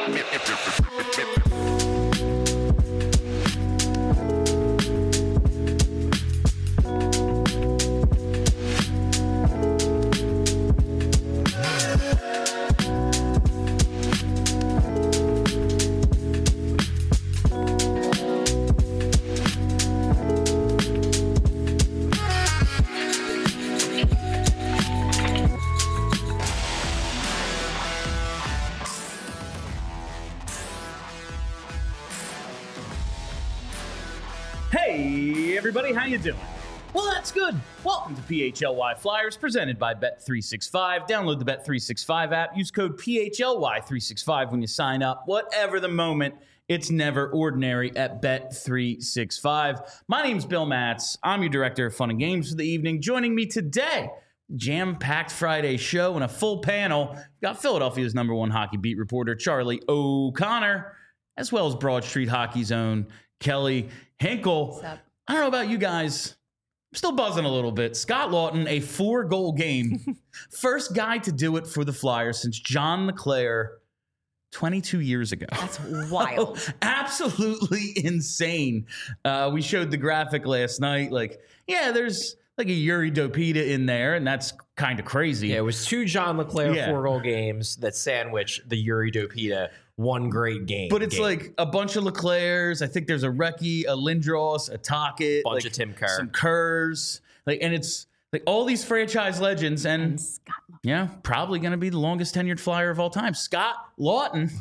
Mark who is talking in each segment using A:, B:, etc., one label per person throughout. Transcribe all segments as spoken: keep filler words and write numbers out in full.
A: Hey, everybody, how you doing? Well, that's good. Welcome to P H L Y Flyers, presented by Bet three sixty-five. Download the Bet three sixty-five app. Use code P H L Y three sixty-five when you sign up. Whatever the moment, it's never ordinary at Bet three sixty-five. My name's Bill Matz. I'm your director of fun and games for the evening. Joining me today, jam-packed Friday show and a full panel. We've got Philadelphia's number one hockey beat reporter, Charlie O'Connor, as well as Broad Street Hockey's own Kelly Hinkle. I don't know about you guys. I'm still buzzing a little bit. Scott Laughton, a four-goal game. First guy to do it for the Flyers since John LeClair twenty-two years ago.
B: That's wild.
A: Absolutely insane. Uh, we showed the graphic last night. Like, yeah, there's like a Yuri Dopita in there, and that's kind of crazy.
C: Yeah, it was two John LeClair
A: Yeah.
C: four-goal games that sandwich the Yuri Dopita one great game.
A: But it's
C: game.
A: like a bunch of Leclairs. I think there's a Recchi, a Lindros, a Tocchet,
C: Bunch
A: like
C: of Tim Kerr.
A: some Kerrs, like, and it's like all these franchise legends, and,
B: And Scott Laughton.
A: yeah, probably going to be the longest tenured Flyer of all time, Scott Laughton.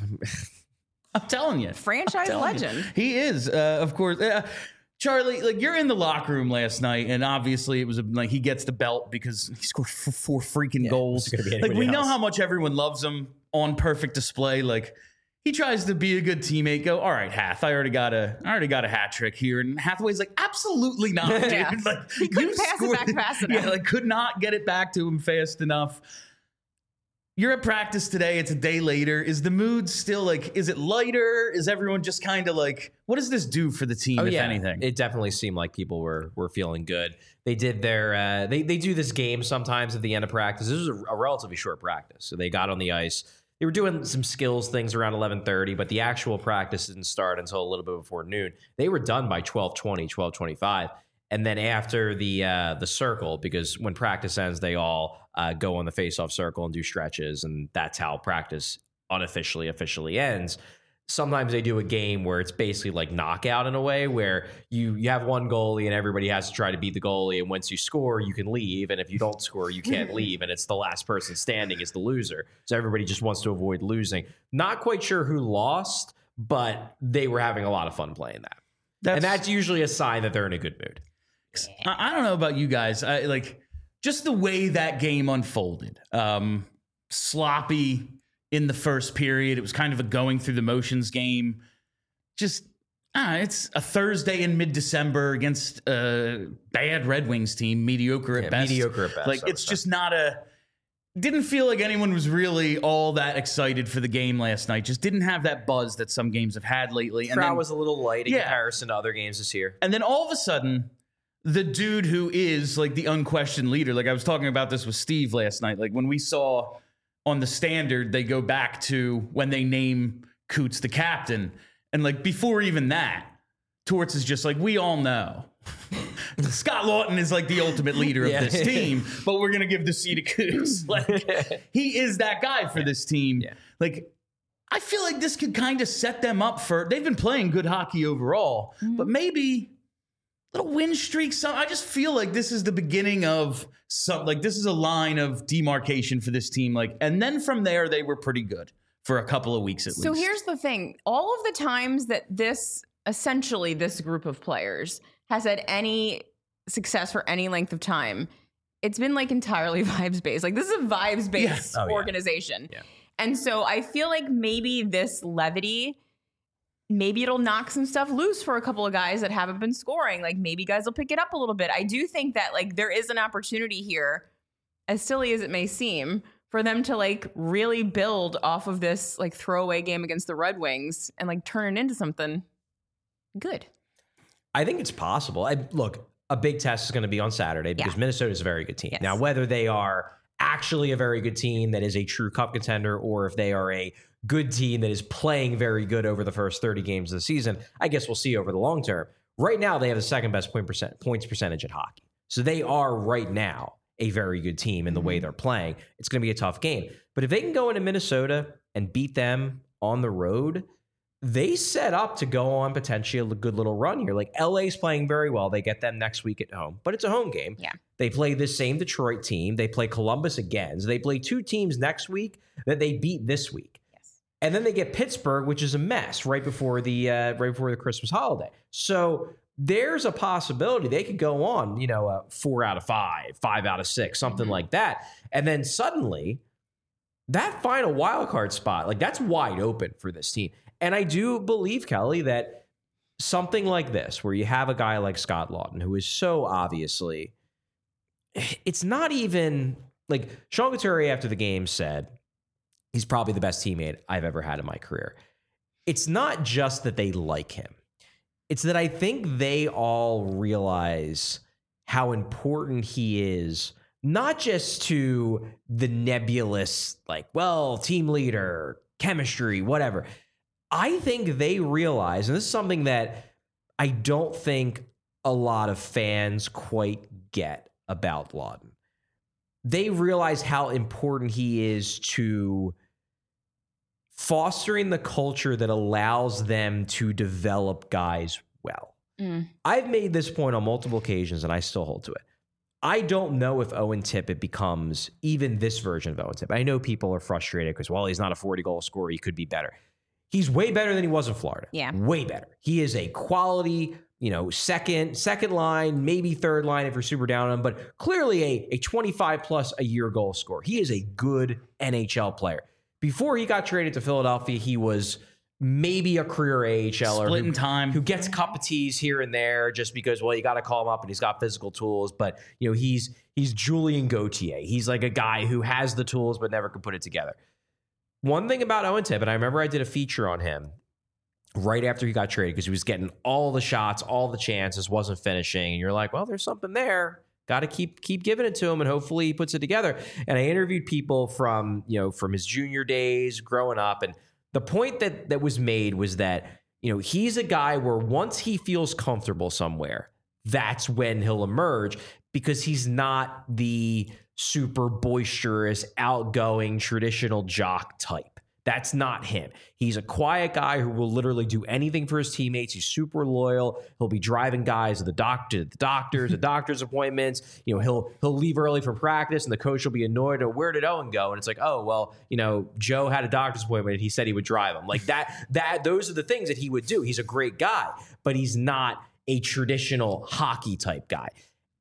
A: I'm telling you,
B: Franchise
A: telling you.
B: legend.
A: He is, uh, of course. Uh, Charlie, like you're in the locker room last night, and obviously it was a, like he gets the belt because he scored f- four freaking
C: Yeah,
A: goals.
C: it's gonna be
A: Like
C: anybody
A: we know
C: else.
A: how much everyone loves him on perfect display. Like he tries to be a good teammate. Go, all right, Hath. I already got a, I already got a hat trick here, and Hathaway's like, absolutely not, dude.
B: Yeah.
A: Like
B: He couldn't
A: you
B: pass it
A: scored-
B: back fast enough.
A: Yeah, like could not get it back to him fast enough. You're at practice today. It's a day later. Is the mood still like, is it lighter? Is everyone just kind of like, what does this do for the team,
C: oh
A: if
C: yeah,
A: anything?
C: it definitely seemed like people were were feeling good. They did their uh, they they do this game sometimes at the end of practice. This was a, a relatively short practice, so they got on the ice. They were doing some skills things around eleven thirty, but the actual practice didn't start until a little bit before noon. They were done by twelve twenty, twelve twenty-five. And then after the uh, the circle, because when practice ends, they all uh, go on the face-off circle and do stretches, and that's how practice unofficially officially ends. Sometimes they do a game where it's basically like knockout in a way, where you you have one goalie and everybody has to try to beat the goalie, and once you score, you can leave, and if you don't score, you can't leave, and it's the last person standing is the loser. So everybody just wants to avoid losing. Not quite sure who lost, but they were having a lot of fun playing that.
A: That's,
C: And that's usually a sign that they're in a good mood.
A: I, I don't know about you guys. I like just the way that game unfolded. Um, sloppy in the first period. It was kind of a going through the motions game. Just ah, it's a Thursday in mid-December against a bad Red Wings team, mediocre at
C: Yeah,
A: best.
C: mediocre at best,
A: Like
C: I would
A: it's
C: say.
A: just not a. Didn't feel like anyone was really all that excited for the game last night. Just didn't have that buzz that some games have had lately.
C: Crowd
A: then-
C: was a little light in
A: Yeah.
C: comparison to other games this year.
A: And then all of a sudden, the dude who is like the unquestioned leader, like I was talking about this with Steve last night, like when we saw on the standard, they go back to when they name Coots the captain. And like before even that, Torts is just like, we all know. Scott Laughton is like the ultimate leader of
C: Yeah.
A: this team, but we're going to give the seat to Coots. Like he is that guy for this team.
C: Yeah.
A: Like I feel like this could kind of set them up for, they've been playing good hockey overall, but maybe little win streak. Some, I just feel like this is the beginning of some, like this is a line of demarcation for this team. Like, and then from there, they were pretty good for a couple of weeks at
B: So
A: least.
B: here's the thing. All of the times that this, essentially this group of players has had any success for any length of time, it's been like entirely vibes based. Like this is a vibes based
A: Yes.
C: Oh, yeah.
B: organization.
C: Yeah.
B: And so I feel like maybe this levity, maybe it'll knock some stuff loose for a couple of guys that haven't been scoring. Like maybe guys will pick it up a little bit. I do think that like there is an opportunity here, as silly as it may seem, for them to like really build off of this like throwaway game against the Red Wings and like turn it into something good.
C: I think it's possible. I, look, a big test is going to be on Saturday because
B: Yeah.
C: Minnesota is a very good team.
B: Yes.
C: Now, whether they are actually a very good team that is a true cup contender, or if they are a good team that is playing very good over the first thirty games of the season. I guess we'll see over the long term. Right now, they have the second best point percent, points percentage in hockey. So they are right now a very good team in the way they're playing. It's going to be a tough game. But if they can go into Minnesota and beat them on the road, they set up to go on potentially a good little run here. Like L A's playing very well. They get them next week at home, but it's a home game.
B: Yeah.
C: They play this same Detroit team. They play Columbus again. So they play two teams next week that they beat this week.
B: Yes.
C: And then they get Pittsburgh, which is a mess right before the uh, right before the Christmas holiday. So there's a possibility they could go on, you know, uh, four out of five, five out of six, something mm-hmm. like that. And then suddenly that final wild card spot, like that's wide open for this team. And I do believe, Kelly, that something like this, where you have a guy like Scott Laughton, who is so obviously, it's not even like Sean Couturier after the game said, he's probably the best teammate I've ever had in my career. It's not just that they like him. It's that I think they all realize how important he is, not just to the nebulous, like, well, team leader, chemistry, whatever. I think they realize, and this is something that I don't think a lot of fans quite get about Laughton. They realize how important he is to fostering the culture that allows them to develop guys well. Mm. I've made this point on multiple occasions, and I still hold to it. I don't know if Owen Tippett becomes even this version of Owen Tippett. I know people are frustrated because, well, he's not a forty-goal scorer. He could be better. He's way better than he was in Florida.
B: Yeah.
C: Way better. He is a quality, you know, second, second line, maybe third line if you're super down on him, but clearly a, a twenty-five plus a year goal scorer. He is a good N H L player. Before he got traded to Philadelphia, he was maybe a career A H L er
A: splitting time,
C: who gets a cup of teas here and there just because, well, you got to call him up and he's got physical tools. But, you know, he's he's Julian Gauthier. He's like a guy who has the tools but never could put it together. One thing about Owen Tippett, I remember I did a feature on him right after he got traded because he was getting all the shots, all the chances, wasn't finishing. And you're like, well, there's something there. Got to keep keep giving it to him, and hopefully he puts it together. And I interviewed people from, you know, from his junior days, growing up, and the point that that was made was that, you know, he's a guy where once he feels comfortable somewhere, that's when he'll emerge, because he's not the super boisterous, outgoing, traditional jock type. That's not him. He's a quiet guy who will literally do anything for his teammates. He's super loyal. He'll be driving guys to the doctor, the doctors, the doctor's appointments. You know, he'll he'll leave early from practice, and the coach will be annoyed. Or where did Owen go? And it's like, oh well, you know, Joe had a doctor's appointment, and he said he would drive him. Like that. That those are the things that he would do. He's a great guy, but he's not a traditional hockey type guy.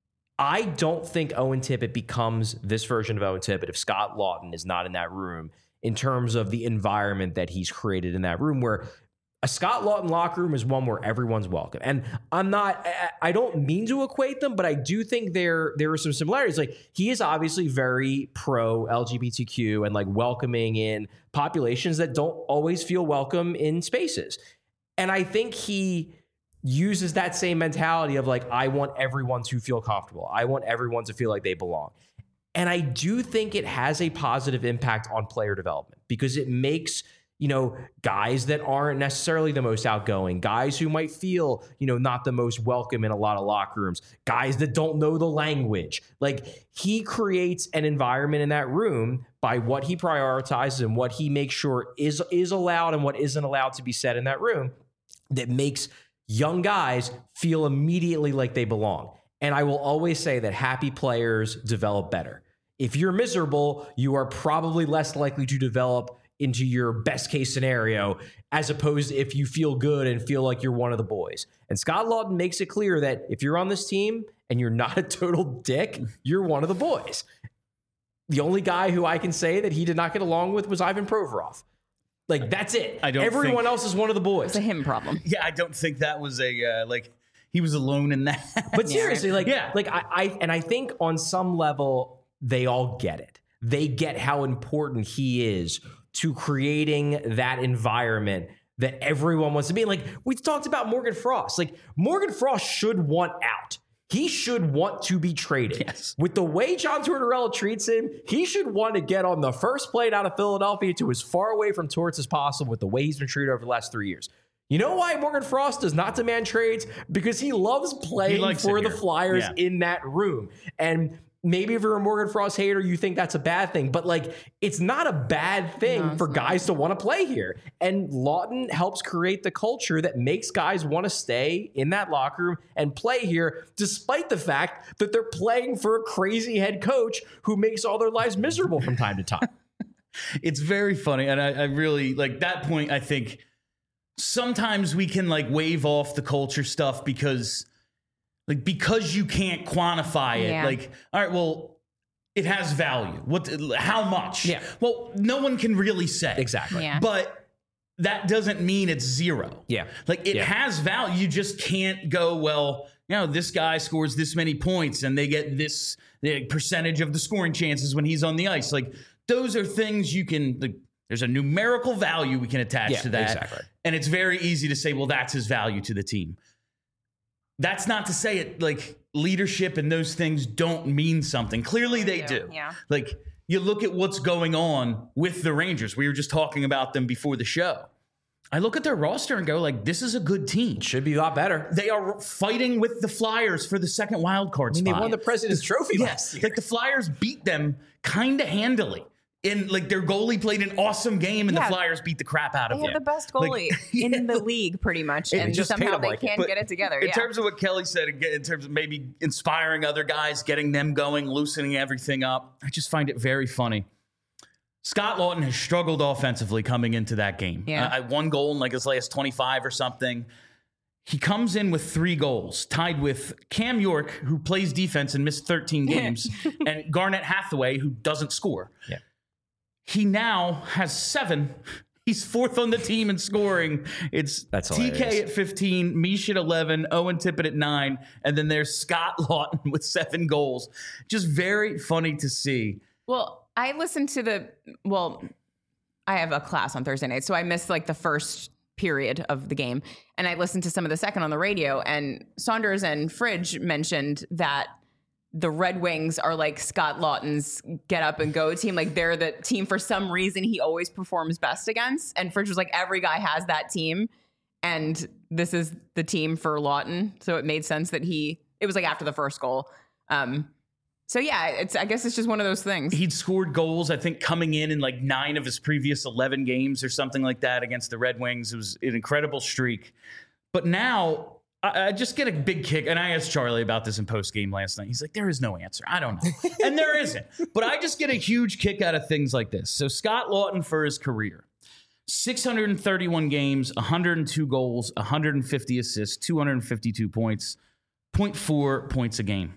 C: I don't think Owen Tippett becomes this version of Owen Tippett if Scott Laughton is not in that room, in terms of the environment that he's created in that room, where a Scott Laughton locker room is one where everyone's welcome. And I'm not, I don't mean to equate them, but I do think there, there are some similarities. Like, he is obviously very pro L G B T Q and like welcoming in populations that don't always feel welcome in spaces. And I think he uses that same mentality of like, I want everyone to feel comfortable. I want everyone to feel like they belong. And I do think it has a positive impact on player development, because it makes, you know, guys that aren't necessarily the most outgoing, guys who might feel, you know, not the most welcome in a lot of locker rooms, guys that don't know the language. Like, he creates an environment in that room by what he prioritizes and what he makes sure is, is allowed and what isn't allowed to be said in that room, that makes young guys feel immediately like they belong. And I will always say that happy players develop better. If you're miserable, you are probably less likely to develop into your best case scenario, as opposed to if you feel good and feel like you're one of the boys. And Scott Laughton makes it clear that if you're on this team and you're not a total dick, you're one of the boys. The only guy who I can say that he did not get along with was Ivan Provorov. Like, that's it.
A: I don't
C: Everyone
A: think,
C: else is one of the boys.
B: It's a him problem.
A: Yeah, I don't think that was a, uh, like, he was alone in that.
C: But seriously, like,
A: yeah.
C: like I, I, and I think on some level, they all get it. They get how important he is to creating that environment that everyone wants to be. Like, we talked about Morgan Frost. Like, Morgan Frost should want out. he should want to be traded.
A: Yes.
C: With the way John Tortorella treats him, he should want to get on the first plane out of Philadelphia to as far away from Torts as possible with the way he's been treated over the last three years. You know why Morgan Frost does not demand trades? Because he loves playing
A: He
C: for the
A: here.
C: Flyers
A: Yeah.
C: in that room. And maybe if you're a Morgan Frost hater, you think that's a bad thing. But, like, it's not a bad thing
B: No,
C: for
B: it's
C: guys to want to play here. And Lawton helps create the culture that makes guys want to stay in that locker room and play here, despite the fact that they're playing for a crazy head coach who makes all their lives miserable from time to time.
A: It's very funny. And I, I really, like, that point, I think sometimes we can, like, wave off the culture stuff because... Like, because you can't quantify it,
B: Yeah.
A: like, all right, well, it has value. What? How much?
C: Yeah.
A: Well, no one can really say.
C: Exactly.
B: Yeah.
A: But that doesn't mean it's zero.
C: Yeah.
A: Like, it
C: Yeah.
A: has value. You just can't go, well, you know, this guy scores this many points and they get this the percentage of the scoring chances when he's on the ice. Like, those are things you can, like, there's a numerical value we can attach
C: Yeah,
A: to that.
C: exactly.
A: And it's very easy to say, well, that's his value to the team. That's not to say it, like, leadership and those things don't mean something. Clearly they do.
B: Yeah.
A: Like, you look at what's going on with the Rangers. We were just talking about them before the show. I look at their roster and go, like, this is a good team.
C: Should be a lot better.
A: They are fighting with the Flyers for the second wild card
C: I mean,
A: spot.
C: they won the President's Trophy last
A: Yes.
C: year.
A: Like, the Flyers beat them kind of handily. And, like, their goalie played an awesome game, and
B: Yeah.
A: the Flyers beat the crap out of
B: They
A: them.
B: have the best
A: Like,
B: goalie
A: yeah,
B: in the league, pretty much,
C: They
B: and
C: just paid
B: somehow
C: him
B: they
C: like it.
B: can't
A: But
B: get it together.
A: In
B: yeah.
A: terms of what Kelly said, again, in terms of maybe inspiring other guys, getting them going, loosening everything up, I just find it very funny. Scott Lawton has struggled offensively coming into that game.
B: Yeah.
A: Uh, one goal in like his last twenty-five or something. He comes in with three goals, tied with Cam York, who plays defense and missed thirteen games, and Garnett Hathaway, who doesn't score.
C: Yeah.
A: He now has seven. He's fourth on the team in scoring. It's
C: That's
A: T K
C: hilarious.
A: at fifteen, Mish at eleven, Owen Tippett at nine, and then there's Scott Lawton with seven goals. Just very funny to see.
B: Well, I listened to the, well, I have a class on Thursday night, so I missed like the first period of the game. And I listened to some of the second on the radio, and Saunders and Fridge mentioned that the Red Wings are like Scott Lawton's get up and go team. Like, they're the team for some reason he always performs best against. And Fridge was like, every guy has that team, and this is the team for Lawton. So it made sense that he, it was like after the first goal. Um, So yeah, it's I guess it's just one of those things.
A: He'd scored goals, I think, coming in in like nine of his previous eleven games or something like that against the Red Wings. It was an incredible streak. But now I, I just get a big kick. And I asked Charlie about this in post game last night. He's like, there is no answer. I don't know. And there isn't. But I just get a huge kick out of things like this. So Scott Lawton for his career, six hundred thirty-one games, one hundred two goals, one hundred fifty assists, two hundred fifty-two points, zero point four points a game.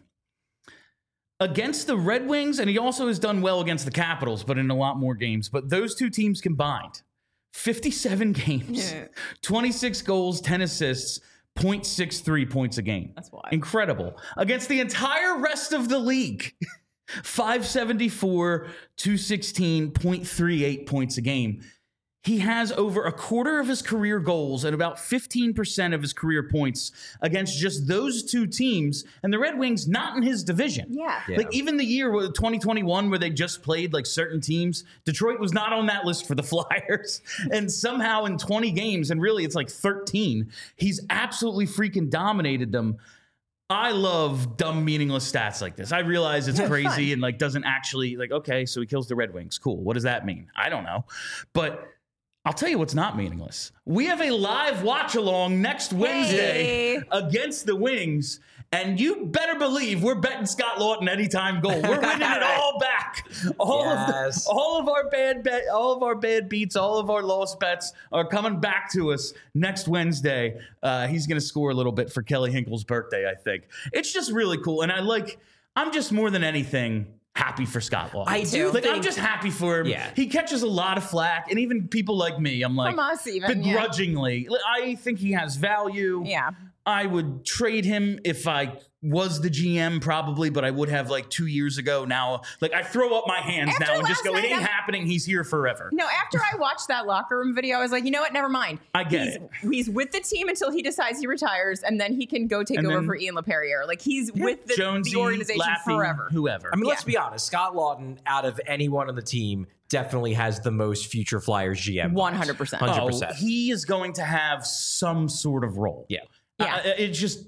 A: Against the Red Wings, and he also has done well against the Capitals, but in a lot more games. But those two teams combined, fifty-seven games,
B: Yeah.
A: twenty-six goals, ten assists, zero point six three points a game.
B: That's wild.
A: Incredible. Against the entire rest of the league, five seventy-four, two sixteen, zero point three eight points a game. He has over a quarter of his career goals and about fifteen percent of his career points against just those two teams, and the Red Wings not in his division.
B: Yeah.
C: Yeah.
A: Like, even the year with twenty twenty-one where they just played like certain teams, Detroit was not on that list for the Flyers. And somehow in twenty games, and really it's like thirteen, he's absolutely freaking dominated them. I love dumb, meaningless stats like this. I realize it's
B: Yeah,
A: crazy
B: fun.
A: and like doesn't actually, like, okay, so he kills the Red Wings. Cool. What does that mean? I don't know. But I'll tell you what's not meaningless. We have a live watch along next Wednesday
B: Hey.
A: against the Wings, and you better believe we're betting Scott Lawton anytime goal. We're winning it all back. All
C: Yes.
A: of the, all of our bad bet, all of our bad beats, all of our lost bets are coming back to us next Wednesday. Uh, he's going to score a little bit for Kelly Hinkle's birthday, I think. It's just really cool, and I like. I'm just more than anything happy for Scott Lawton.
C: I do
A: like. I'm
C: think-
A: just happy for him.
C: Yeah.
A: He catches a lot of flack, and even people like me, I'm like,
B: From us even, yeah.
A: begrudgingly. I think he has value.
B: Yeah.
A: I would trade him if I was the G M probably, but I would have like two years ago. Now, like I throw up my hands
B: After
A: now and just
B: last
A: go, it
B: night,
A: ain't
B: I'm-
A: happening. He's here forever.
B: No, after I watched that locker room video, I was like, you know what? Never mind.
A: I get
B: he's,
A: it.
B: He's with the team until he decides he retires, and then he can go take
A: And
B: over
A: then-
B: for Ian LaPerriere. Like he's with the,
A: Jonesy,
B: the organization
A: Laffy,
B: forever.
A: whoever.
C: I mean, let's
B: Yeah.
C: be honest. Scott Lawton, out of anyone on the team, definitely has the most future Flyers G M.
B: one hundred percent.
C: one hundred
A: Oh,
C: percent.
A: he is going to have some sort of role.
C: Yeah.
B: Yeah.
A: Uh, it just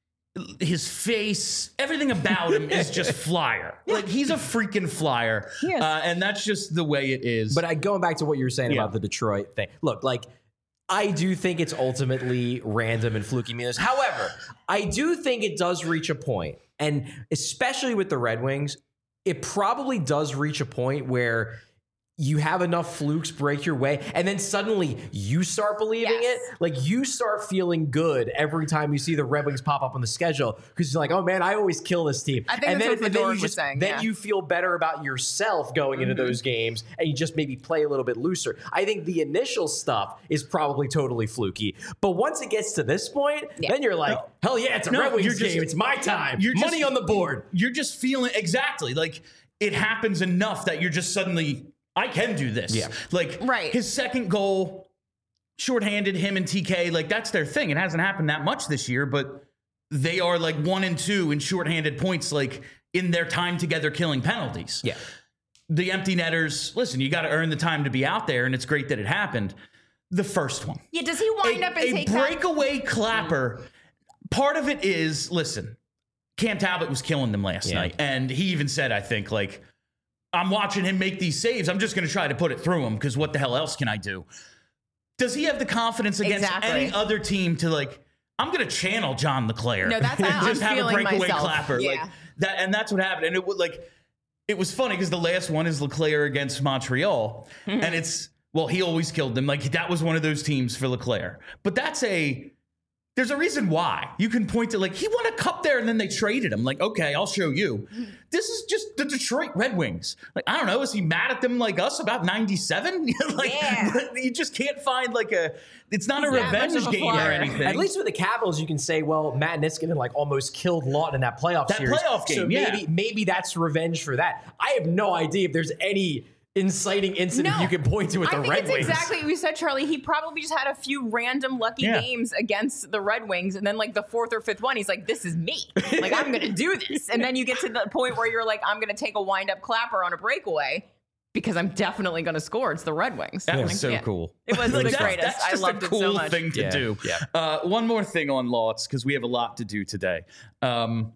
A: his face, everything about him is just Flyer. Like he's a freaking Flyer,
B: He is.
A: uh, and that's just the way it is.
C: But I, going back to what you were saying
A: Yeah.
C: about the Detroit thing, look, like I do think it's ultimately random and fluky meanness. However, I do think it does reach a point, and especially with the Red Wings, it probably does reach a point where you have enough flukes break your way, and then suddenly you start believing
B: Yes.
C: it. Like you start feeling good every time you see the Red Wings pop up on the schedule because you're like, oh man, I always kill this team.
B: I think
C: and
B: that's
C: then,
B: what
C: and then
B: Fedor
C: you
B: was
C: just,
B: saying,
C: Then
B: yeah.
C: you feel better about yourself going into those games, and you just maybe play a little bit looser. I think the initial stuff is probably totally fluky, but once it gets to this point,
B: Yeah.
C: then you're like,
A: No.
C: hell yeah, it's a
A: No,
C: Red Wings
A: you're just-
C: game. It's my time.
A: you're just-
C: Money on the board.
A: You're just feeling exactly like it happens enough that you're just suddenly, I can do this.
C: Yeah.
A: Like
B: Right.
A: his second goal, shorthanded him and T K. Like that's their thing. It hasn't happened that much this year, but they are like one and two in shorthanded points, like in their time together killing penalties.
C: Yeah.
A: The empty netters, listen, you got to earn the time to be out there, and it's great that it happened. The first one.
B: Yeah, does he wind
A: a,
B: up and
A: a
B: take that?
A: breakaway clapper. Part of it is, listen, Cam Talbot was killing them last
C: Yeah.
A: night, and he even said, I think, like, I'm watching him make these saves. I'm just going to try to put it through him because what the hell else can I do? Does he have the confidence against
B: Exactly.
A: any other team to like? I'm going to channel John LeClaire.
B: No, that's
A: and
B: how I'm
A: just have a
B: feeling
A: breakaway
B: myself.
A: clapper
B: Yeah.
A: like that, and that's what happened. And it would like, it was funny because the last one is LeClaire against Montreal,
B: Mm-hmm.
A: and it's well, he always killed them. Like that was one of those teams for LeClaire, but that's a. There's a reason why. You can point to like he won a cup there and then they traded him. Like, okay, I'll show you. This is just the Detroit Red Wings. Like, I don't know. Is he mad at them like us about ninety-seven? Like,
B: Yeah.
A: you just can't find like a. It's not
B: He's
A: a
B: that much
A: revenge
B: of a
A: game or
B: flyer.
A: anything.
C: At least with the Capitals, you can say, well, Matt Niskanen like almost killed Lawton in that playoff
A: That
C: series.
A: playoff
C: so
A: game, yeah.
C: maybe maybe that's revenge for that. I have no idea if there's any inciting incident
B: No.
C: you can point to with
B: I
C: the
B: think
C: Red
B: it's
C: Wings.
B: exactly what you said, Charlie. He probably just had a few random lucky
A: Yeah.
B: games against the Red Wings, and then like the fourth or fifth one, he's like, "This is me. Like I'm going to do this." And then you get to the point where you're like, "I'm going to take a wind up clapper on a breakaway because I'm definitely going to score." It's the Red Wings.
A: That
B: Like,
A: was so
B: yeah.
A: cool.
B: It was
A: Like,
B: the
A: that's-
B: greatest.
A: That's
B: I
A: just
B: loved
A: a
B: it
A: cool
B: so much.
A: thing to
C: Yeah,
A: do.
C: yeah.
A: Uh, one more thing on Lawtz because we have a lot to do today. Um,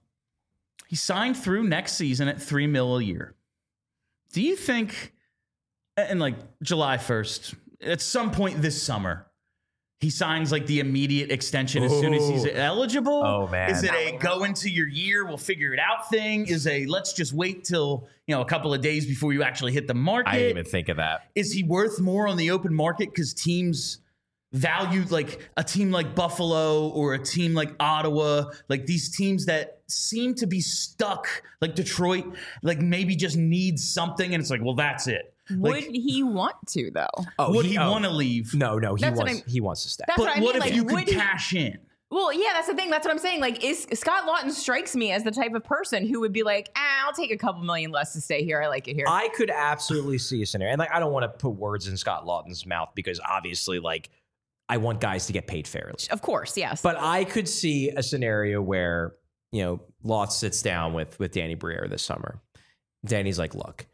A: he signed through next season at three mil a year. Do you think, and like July first, at some point this summer, he signs like the immediate extension as soon as he's
C: Ooh.
A: eligible?
C: Oh, man.
A: Is it a go into your year, we'll figure it out thing? Is a let's just wait till you know a couple of days before you actually hit the market?
C: I didn't even think of that.
A: Is he worth more on the open market because teams value like a team like Buffalo or a team like Ottawa, like these teams that seem to be stuck, like Detroit, like maybe just needs something, and it's like, well, that's it.
B: Would
A: Like,
B: he want to though?
C: Oh,
A: would he,
C: oh.
A: want to leave?
C: No, no, he
B: That's what
C: wants
B: I'm-
C: he wants to stay.
B: That's
A: But
B: what I
A: what
B: mean.
A: if
B: like,
A: you could
B: would he-
A: cash in?
B: Well, yeah, that's the thing. That's what I'm saying. Like, is Scott Lawton strikes me as the type of person who would be like, ah, I'll take a couple million less to stay here. I like it here.
C: I could absolutely see a scenario, and like I don't want to put words in Scott Lawton's mouth because obviously, like, I want guys to get paid fairly.
B: of course, yes.
C: But I could see a scenario where, you know, Lawton sits down with with Danny Briere this summer. Danny's like, look,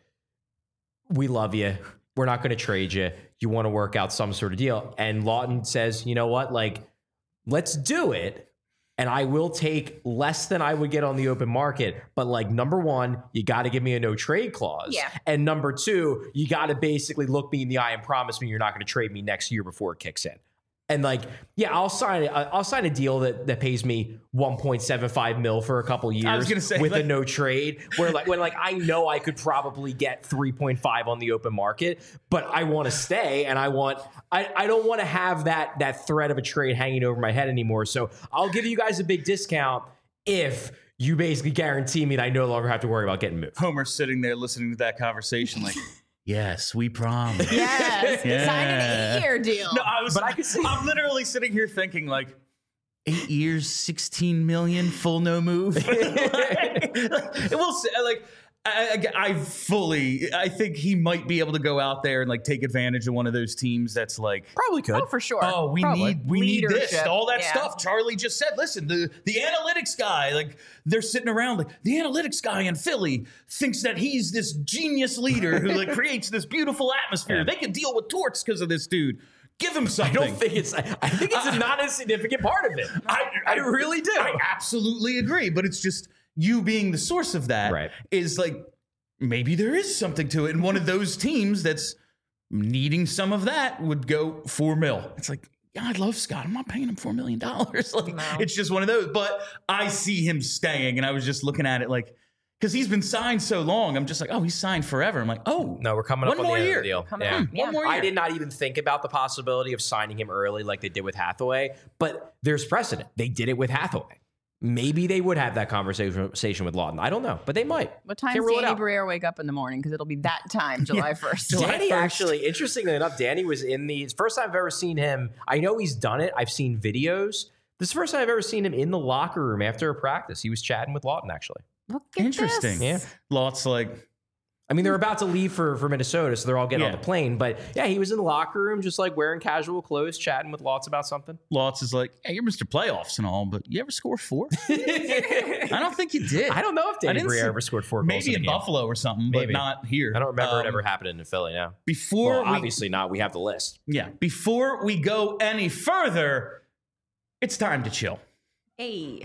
C: we love you. We're not going to trade you. You want to work out some sort of deal. And Lawton says, you know what? Like, let's do it. And I will take less than I would get on the open market. But like, number one, you got to give me a no trade clause.
B: Yeah.
C: And number two, you got to basically look me in the eye and promise me you're not going to trade me next year before it kicks in. And like, yeah, I'll sign it. I'll sign a deal that, that pays me one point seven five mil for a couple years.
A: I was gonna say,
C: with
A: like-
C: a no trade, where like when like I know I could probably get three point five on the open market, but I want to stay and I want I, I don't want to have that that threat of a trade hanging over my head anymore. So I'll give you guys a big discount if you basically guarantee me that I no longer have to worry about getting moved.
A: Homer's sitting there listening to that conversation, like, yes, we promise.
B: yes,
A: Yeah.
B: sign an eight-year deal.
A: No, I was.
C: But I could see-
A: I'm literally sitting here thinking, like, eight years, sixteen million, full no move. like, like, we'll say, like, I, I, I fully, I think he might be able to go out there and like take advantage of one of those teams that's like
C: Probably could.
B: Oh, for sure.
A: oh, we
B: Probably.
A: need we need this,
B: Leadership.
A: all that
B: Yeah.
A: stuff. Charlie just said, listen, the the analytics guy, like they're sitting around like the analytics guy in Philly thinks that he's this genius leader who like creates this beautiful atmosphere.
C: Yeah.
A: They can deal with torts because of this dude. Give him
C: I
A: something.
C: don't think it's. I think it's a not insignificant part of it.
A: I,
C: I really do.
A: I absolutely agree, but it's just you being the source of that
C: Right.
A: is like maybe there is something to it. And one of those teams that's needing some of that would go four mil. It's like, yeah, I love Scott. I'm not paying him four million dollars. Like
B: No.
A: it's just one of those. But I see him staying, and I was just looking at it like because he's been signed so long. I'm just like, oh, he's signed forever. I'm like, oh,
C: No, we're coming
A: one
C: up on
A: more
C: the end
A: year.
C: of the deal.
B: Coming
C: Yeah.
B: up.
A: Hmm, one more year.
C: I did not even think about the possibility of signing him early like they did with Hathaway, but there's precedent. They did it with Hathaway. Maybe they would have that conversation with Lawton. I don't know, but they might.
B: What time
C: Can't
B: does
C: rule it
B: Danny
C: out.
B: Briere wake up in the morning? Because it'll be that time, July first.
A: July
C: Danny
A: first.
C: actually, interestingly enough, Danny was in the it's the first time I've ever seen him. I know he's done it. I've seen videos. This is the first time I've ever seen him in the locker room after a practice. He was chatting with Lawton, actually.
B: Look at
A: Interesting.
B: this.
C: Yeah.
A: Lots like
C: I mean, they're about to leave for, for Minnesota, so they're all getting
A: Yeah.
C: on the plane. But yeah, he was in the locker room, just like wearing casual clothes, chatting with Lots about something.
A: Lots is like, hey, you're Mister Playoffs and all, but you ever score four? I don't think you did.
C: I don't know if
A: I
C: Danny
A: didn't
C: Briere
A: see-
C: ever scored four goals
A: Maybe
C: in,
A: in
C: a game.
A: Buffalo or something, but
C: Maybe.
A: not here.
C: I don't remember
A: Um,
C: it ever happening in Philly now.
A: Before
C: Well,
A: we,
C: obviously not. We have the list.
A: yeah, before we go any further, it's time to chill.
B: Hey.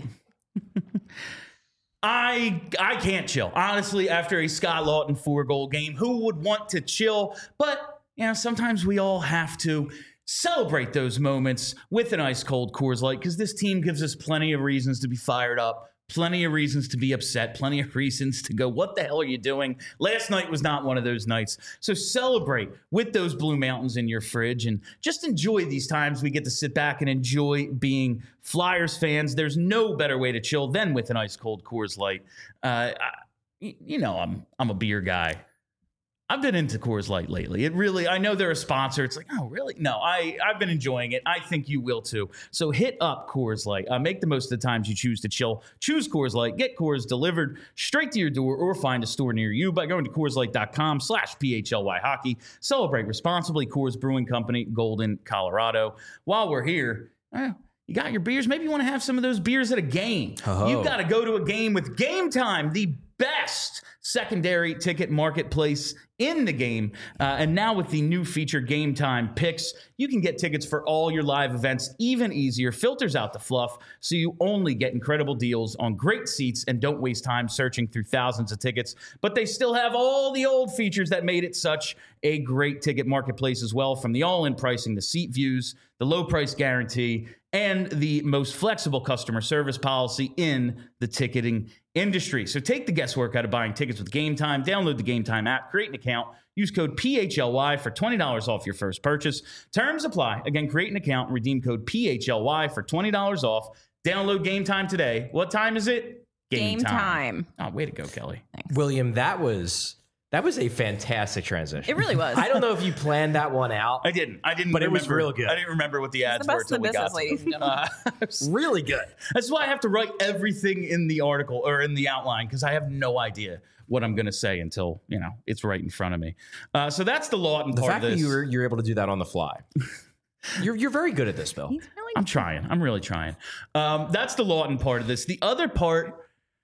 A: I I can't chill. Honestly, after a Scott Lawton four goal game, who would want to chill? But you know, sometimes we all have to celebrate those moments with an ice cold Coors Light because this team gives us plenty of reasons to be fired up, plenty of reasons to be upset, plenty of reasons to go, what the hell are you doing? Last night was not one of those nights. So celebrate with those Blue Mountains in your fridge and just enjoy these times we get to sit back and enjoy being Flyers fans. There's no better way to chill than with an ice cold Coors Light. Uh, I, you know, I'm I'm a beer guy. I've been into Coors Light lately. It really, I know they're a sponsor. It's like, oh, really? No, I, I've been enjoying it. I think you will too. So hit up Coors Light. Uh, make the most of the times you choose to chill. Choose Coors Light. Get Coors delivered straight to your door or find a store near you by going to CoorsLight.com slash PHLY hockey. Celebrate responsibly. Coors Brewing Company, Golden, Colorado. While we're here, eh, you got your beers. Maybe you want to have some of those beers at a game.
C: Oh.
A: You've got to go to a game with Game Time, the best secondary ticket marketplace in the game. Uh, and now with the new feature Game Time Picks, you can get tickets for all your live events even easier. Filters out the fluff so you only get incredible deals on great seats and don't waste time searching through thousands of tickets. But they still have all the old features that made it such a great ticket marketplace as well, from the all-in pricing, the seat views, the low price guarantee, and the most flexible customer service policy in the ticketing industry. So take the guesswork out of buying tickets with Game Time. Download the Game Time app, create an account, use code P H L Y for twenty dollars off your first purchase. Terms apply. Again, create an account and redeem code P H L Y for twenty dollars off. Download Game Time today. What time is it?
B: Game time.
A: Oh, way to go, Kelly.
C: William, that was that was a fantastic transition.
B: It really was.
C: I don't know if you planned that one out.
A: I didn't. I didn't
C: But it was
A: remember.
C: real good.
A: I didn't remember what the
B: It's
A: ads
B: the
A: were
B: best of
A: until
B: the
A: we
B: business,
A: got
B: ladies and
A: to
B: gentlemen.
A: them. Uh,
C: Really good.
A: That's why I have to write everything in the article or in the outline because I have no idea what I'm going to say until, you know, it's right in front of me. Uh, so that's the Lawton
C: The
A: part
C: fact
A: of
C: that
A: this.
C: you were you're able to do that on the fly. You're you're very good at this, Bill.
B: He's really
A: I'm trying. I'm really trying. Um, that's the Lawton part of this. The other part,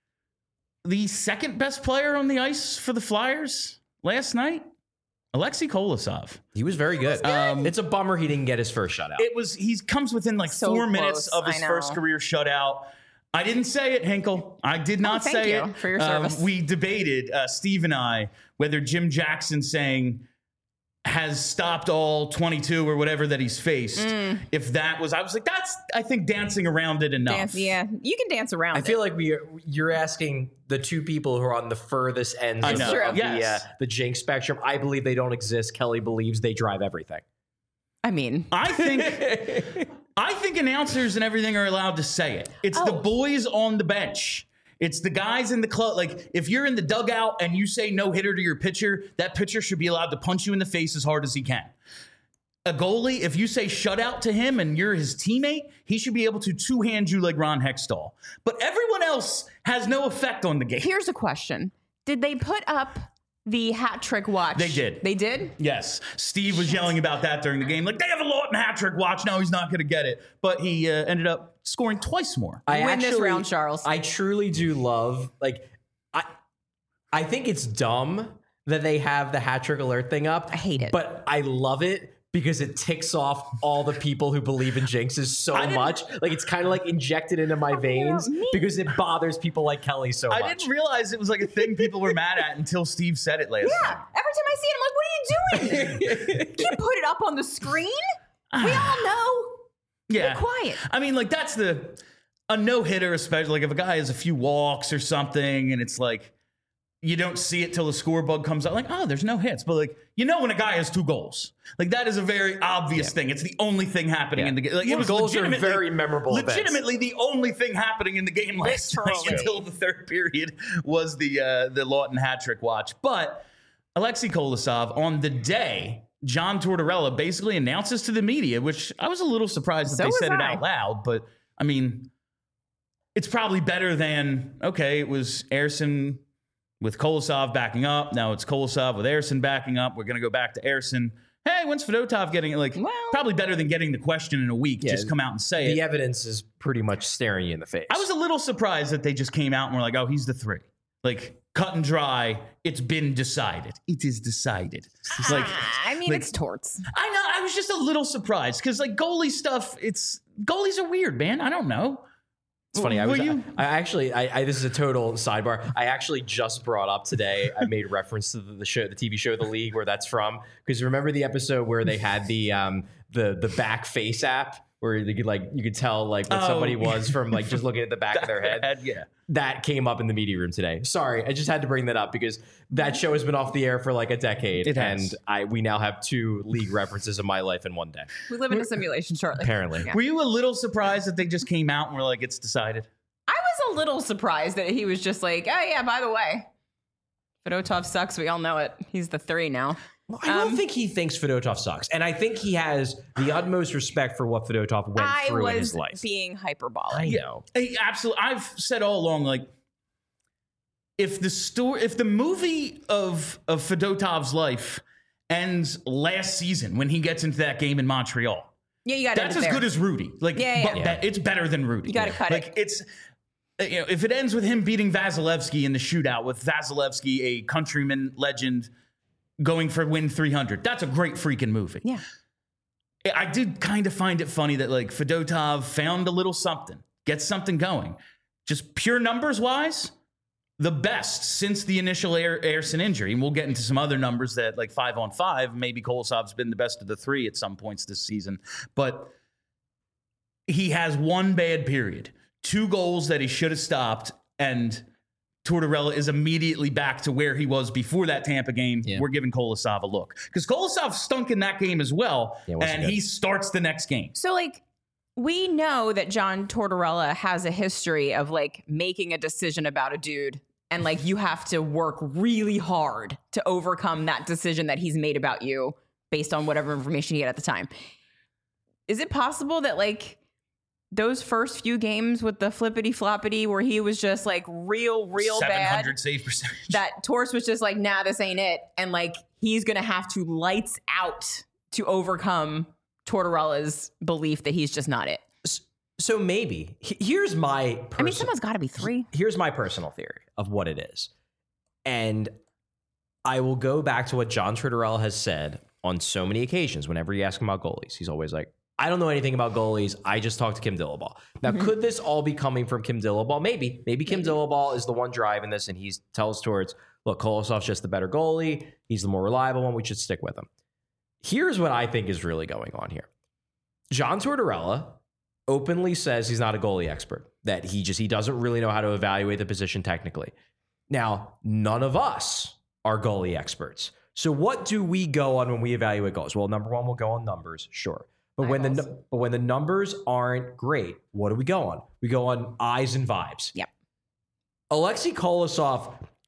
A: the second best player on the ice for the Flyers last night, Alexei Kolosov.
C: He was very good.
A: Um,
C: it's a bummer he didn't get his first shutout.
A: It was, he comes within like
B: So
A: four
B: close,
A: minutes of his
B: I know.
A: first career shutout. I didn't say it, Hinkle. I did not
B: Oh, thank
A: say
B: you
A: it.
B: for your
A: Um,
B: service.
A: we debated, uh, Steve and I, whether Jim Jackson saying has stopped all twenty-two or whatever that he's faced. If that was, I was like, that's, I think, dancing around it enough.
B: dance. Yeah, you can dance around.
C: I feel
B: it.
C: like we are, you're asking the two people who are on the furthest ends
A: I
C: of,
A: know.
C: the,
B: True.
C: of the, uh,
A: Yes.
C: the jinx spectrum. I believe they don't exist. Kelly believes they drive everything.
B: I mean,
A: I think I think announcers and everything are allowed to say it. It's the
B: Oh.
A: boys on the bench. It's the guys in the club. Like, if you're in the dugout and you say no hitter to your pitcher, that pitcher should be allowed to punch you in the face as hard as he can. a goalie, if you say shutout to him and you're his teammate, he should be able to two-hand you like Ron Hextall. But everyone else has no effect on the game.
B: Here's a question. Did they put up the hat trick watch?
A: They did.
B: They did?
A: Yes. Steve was yelling about that during the game. Like, they have a Lawton hat trick watch. No, he's not going to get it. But he uh, ended up scoring twice more.
C: I
B: Win this
C: actually-
B: round, Charles.
C: I truly do love, like, I, I think it's dumb that they have the hat trick alert thing up.
B: I hate it.
C: But I love it because it ticks off all the people who believe in jinxes so much. Like, it's kind of like injected into my veins because it bothers people like Kelly so
A: I
C: much.
A: didn't realize it was like a thing people were mad at until Steve said it last
B: Yeah.
A: night.
B: Every time I see it, I'm like, what are you doing? You can't put it up on the screen. We all know.
A: Yeah.
B: Be quiet.
A: I mean, like, that's the, a no-hitter, especially, like, if a guy has a few walks or something and it's like, you don't see it till the scoreboard comes out. Like, oh, there's no hits. But, like, you know when a guy has two goals. Like, that is a very obvious yeah. thing. It's the only thing happening
C: yeah.
A: in the game. Like,
C: yeah,
A: it was
C: goals are
A: legitimately,
C: very memorable
A: legitimately
C: events.
A: the only thing happening in the game last night until the third period was the uh, the Lawton hat trick watch. But Alexei Kolosov, on the day, John Tortorella basically announces to the media, which I was a little surprised that
B: So
A: they
B: was
A: said it
B: I.
A: out loud. But, I mean, it's probably better than, okay, it was Ersson with Kolosov backing up. Now it's Kolosov with Ersson backing up. We're going to go back to Ersson. Hey, when's Fedotov getting it? Like,
B: Well-
A: probably better than getting the question in a week.
C: Yeah,
A: just come out and say
C: The
A: it.
C: evidence is pretty much staring you in the face.
A: I was a little surprised that they just came out and were like, oh, he's the three. Like, cut and dry. It's been decided. It is decided. It's like,
B: Ah, I mean,
A: like-
B: it's torts.
A: I know. I was just a little surprised because, like, goalie stuff, it's, goalies are weird, man. I don't know.
C: It's funny. I
A: Were
C: was.
A: you-
C: I, I actually. I, I. This is a total sidebar. I actually just brought up today. I made reference to the, the show, the T V show, The League, where that's from. Because remember the episode where they had the um the the back face app where they could like you could tell like what
A: Oh.
C: somebody was from like just looking at the back of their head.
A: Yeah.
C: That came up in the media room today. Sorry, I just had to bring that up because that show has been off the air for like a decade,
A: It has.
C: and I we now have two League references in my life in one day.
B: We live in a simulation, Charlie.
C: Apparently.
B: Yeah.
A: Were you a little surprised that they just came out and were like, it's decided?
B: I was a little surprised that he was just like, oh, yeah, by the way, Fedotov sucks. We all know it. He's the three now.
C: I don't
B: Um,
C: think he thinks Fedotov sucks, and I think he has the utmost respect for what Fedotov went
B: I
C: through in
B: was
C: his life.
B: being hyperbolic.
C: I know.
A: Hey, absolutely. I've said all along, like, if the story, if the movie of of Fedotov's life ends last season when he gets into that game in Montreal,
B: Yeah, you got
A: that's as good as Rudy. Like,
B: Yeah, yeah,
A: but
C: yeah.
A: that- it's better than Rudy.
B: You gotta cut it.
A: Like, it's, uh, you know, if it ends with him beating Vasilevsky in the shootout with Vasilevsky, a countryman legend, going for win three hundred, that's a great freaking movie.
B: Yeah.
A: I did kind of find it funny that like Fedotov found a little something, gets something going. Just pure numbers wise, the best since the initial Air, Ersson injury. And we'll get into some other numbers that like five on five, maybe Kolosov's been the best of the three at some points this season. But he has one bad period, two goals that he should have stopped, and Tortorella is immediately back to where he was before that Tampa game.
C: Yeah.
A: We're giving Kolosov a look. Because Kolosov stunk in that game as well,
C: Yeah, it wasn't
A: and
C: good.
A: he starts the next game.
B: So, like, we know that John Tortorella has a history of, like, making a decision about a dude. And, like, you have to work really hard to overcome that decision that he's made about you based on whatever information he had at the time. Is it possible that, like, those first few games with the flippity floppity where he was just like real, real
A: seven hundred
B: bad,
A: save percentage.
B: that Torts was just like, nah, this ain't it. And like, he's going to have to lights out to overcome Tortorella's belief that he's just not it.
C: So maybe H- here's my. Perso-
B: I mean, someone's got to be three.
C: Here's my personal theory of what it is, and I will go back to what John Tortorella has said on so many occasions. Whenever you ask him about goalies, he's always like, I don't know anything about goalies. I just talked to Kim Dillabaugh. Now,
B: Mm-hmm.
C: could this all be coming from Kim Dillabaugh? Maybe. Maybe Kim Dillabaugh is the one driving this, and he tells Torts, look, Kolosov's just the better goalie. He's the more reliable one. We should stick with him. Here's what I think is really going on here. John Tortorella openly says he's not a goalie expert, that he just he doesn't really know how to evaluate the position technically. Now, none of us are goalie experts. So what do we go on when we evaluate goals? Well, number one, we'll go on numbers, sure. But when the
B: Eyeballs.
C: nu- but when the numbers aren't great, what do we go on? We go on eyes and vibes.
B: Yep.
C: Alexei Kolosov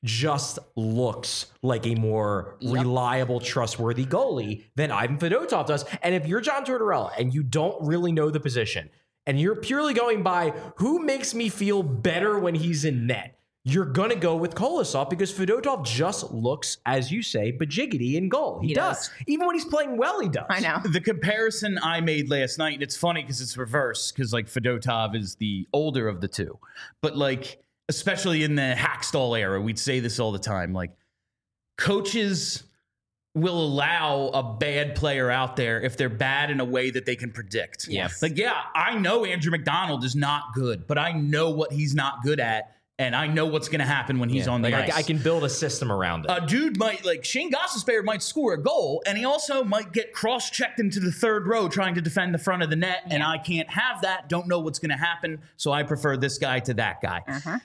C: just looks like a more yep. reliable, trustworthy goalie than Ivan Fedotov does. And if you're John Tortorella and you don't really know the position and you're purely going by who makes me feel better when he's in net, you're going to go with Kolosov because Fedotov just looks, as you say, bajiggity in goal. He, he does. does. Even when he's playing well, he does.
B: I know.
A: The comparison I made last night, and it's funny because it's reverse because, like, Fedotov is the older of the two. But, like, especially in the Hackstall era, we'd say this all the time. Like, coaches will allow a bad player out there if they're bad in a way that they can predict.
C: Yes.
A: Like, yeah, I know Andrew McDonald is not good, but I know what he's not good at. And I know what's going to happen when he's yeah, on the
C: like
A: ice.
C: I, I can build a system around it.
A: A dude might, like, Shane Gostisbehere might score a goal, and he also might get cross-checked into the third row trying to defend the front of the net, yeah. and I can't have that, don't know what's going to happen, so I prefer this guy to that guy.
B: Uh-huh.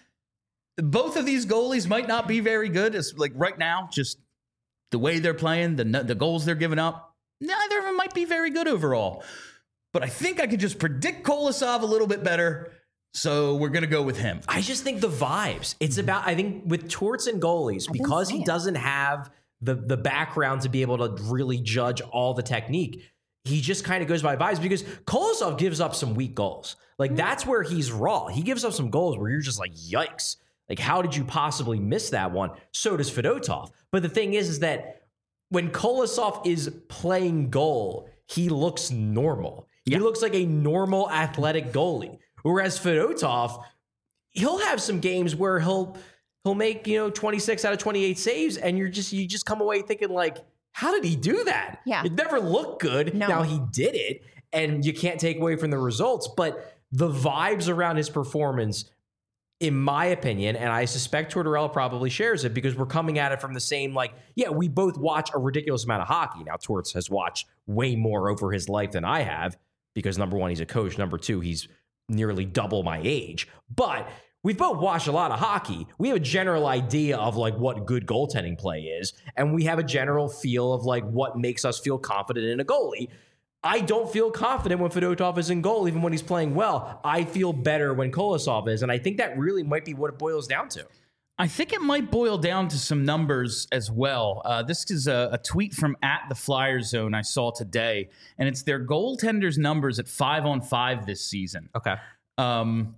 A: Both of these goalies might not be very good. It's like right now, just the way they're playing, the, the goals they're giving up, neither of them might be very good overall. But I think I could just predict Kolosov a little bit better. So we're going to go with him.
C: I just think the vibes. It's about, I think with Torts and goalies, because he doesn't have the, the background to be able to really judge all the technique, he just kind of goes by vibes because Kolosov gives up some weak goals. Like, that's where he's raw. He gives up some goals where you're just like, yikes. Like, how did you possibly miss that one? So does Fedotov. But the thing is, is that when Kolosov is playing goal, he looks normal. He yeah. looks like a normal athletic goalie. Whereas Fedotov, he'll have some games where he'll he'll make, you know, twenty-six out of twenty-eight saves, and you're just you just come away thinking like, how did he do that?
B: Yeah.
C: It never looked good.
B: No.
C: Now he did it, and you can't take away from the results, but the vibes around his performance, in my opinion, and I suspect Tortorella probably shares it because we're coming at it from the same, like, yeah, we both watch a ridiculous amount of hockey. Now, Torts has watched way more over his life than I have because, number one, he's a coach. Number two, he's nearly double my age. But we've both watched a lot of hockey. We have a general idea of, like, what good goaltending play is, and we have a general feel of, like, what makes us feel confident in a goalie. I don't feel confident when Fedotov is in goal, even when he's playing well. I feel better when Kolosov is, and I think that really might be what it boils down to.
A: I think it might boil down to some numbers as well. Uh, this is a, a tweet from at the Flyer Zone I saw today, and it's their goaltenders' numbers at five on five this season.
C: Okay.
A: Um,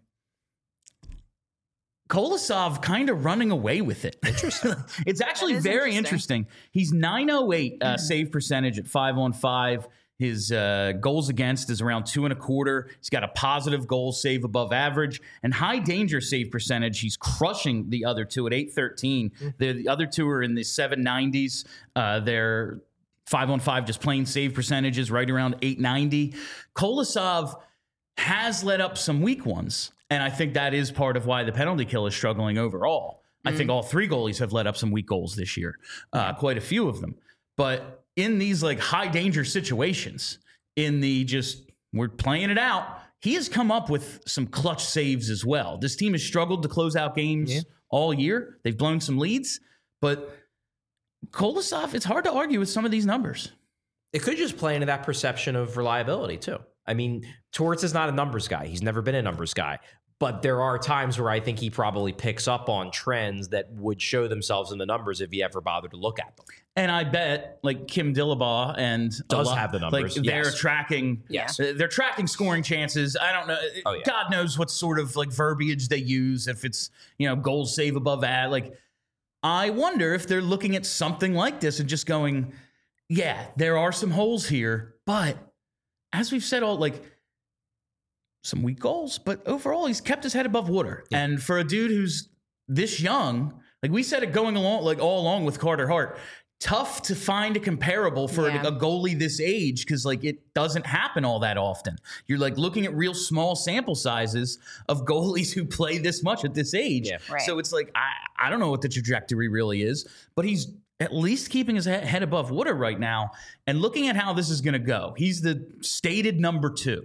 A: Kolosov kind of running away with it.
C: Interesting.
A: It's actually very interesting. interesting. He's nine oh eight uh, save percentage at five on five. His uh, goals against is around two and a quarter. He's got a positive goal save above average and high danger save percentage. He's crushing the other two at eight thirteen. Mm-hmm. The, the other two are in the seven nineties. Uh, they're five on five, just plain save percentages right around eight ninety. Kolosov has let up some weak ones, and I think that is part of why the penalty kill is struggling overall. Mm-hmm. I think all three goalies have let up some weak goals this year, uh, quite a few of them. But in these, like, high danger situations, in the just we're playing it out, he has come up with some clutch saves as well. This team has struggled to close out games yeah. all year. They've blown some leads, but Kolosov, it's hard to argue with some of these numbers.
C: It could just play into that perception of reliability too. I mean, Torts is not a numbers guy. He's never been a numbers guy. But there are times where I think he probably picks up on trends that would show themselves in the numbers if he ever bothered to look at them.
A: And I bet, like, Kim Dillabaugh and
C: does
A: lot,
C: have the numbers.
A: Like, they're
C: yes.
A: tracking,
C: yes,
A: they're tracking scoring chances. I don't know.
C: Oh, yeah.
A: God knows what sort of, like, verbiage they use. If it's, you know, goals save above ad. Like, I wonder if they're looking at something like this and just going, yeah, there are some holes here, but as we've said all, like, some weak goals, but overall he's kept his head above water. Yeah. And for a dude who's this young, like we said it going along, like all along with Carter Hart, tough to find a comparable for yeah. a goalie this age because, like, it doesn't happen all that often. You're, like, looking at real small sample sizes of goalies who play this much at this age.
C: Yeah.
B: Right.
A: So it's like, I, I don't know what the trajectory really is, but he's at least keeping his head above water right now. And looking at how this is going to go, he's the stated number two.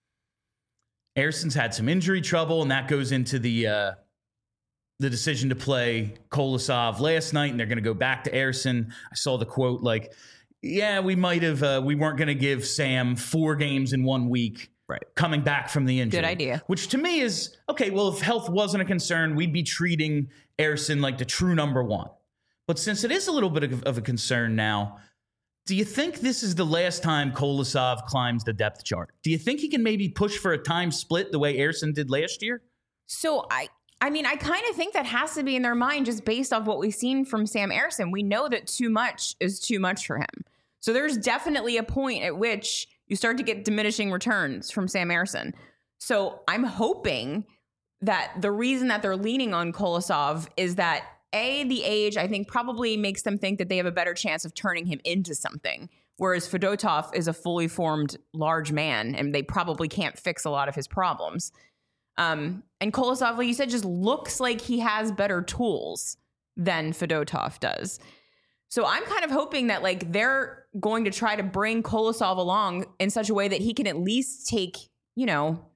A: Erson's had some injury trouble, and that goes into the uh, the decision to play Kolosov last night, and they're going to go back to Erson. I saw the quote, like, yeah, we might have, uh, we weren't going to give Sam four games in one week
C: Right.
A: coming back from the injury.
B: Good idea.
A: Which to me is, okay, well, if health wasn't a concern, we'd be treating Ersson like the true number one. But since it is a little bit of, of a concern now, do you think this is the last time Kolosov climbs the depth chart? Do you think he can maybe push for a time split the way Ersson did last year?
B: So I, I mean, I kind of think that has to be in their mind just based off what we've seen from Sam Ersson. We know that too much is too much for him. So there's definitely a point at which you start to get diminishing returns from Sam Ersson. So I'm hoping that the reason that they're leaning on Kolosov is that A, the age, I think probably makes them think that they have a better chance of turning him into something. Whereas Fedotov is a fully formed large man and they probably can't fix a lot of his problems. Um, and Kolosov, like you said, just looks like he has better tools than Fedotov does. So I'm kind of hoping that like they're going to try to bring Kolosov along in such a way that he can at least take, you know,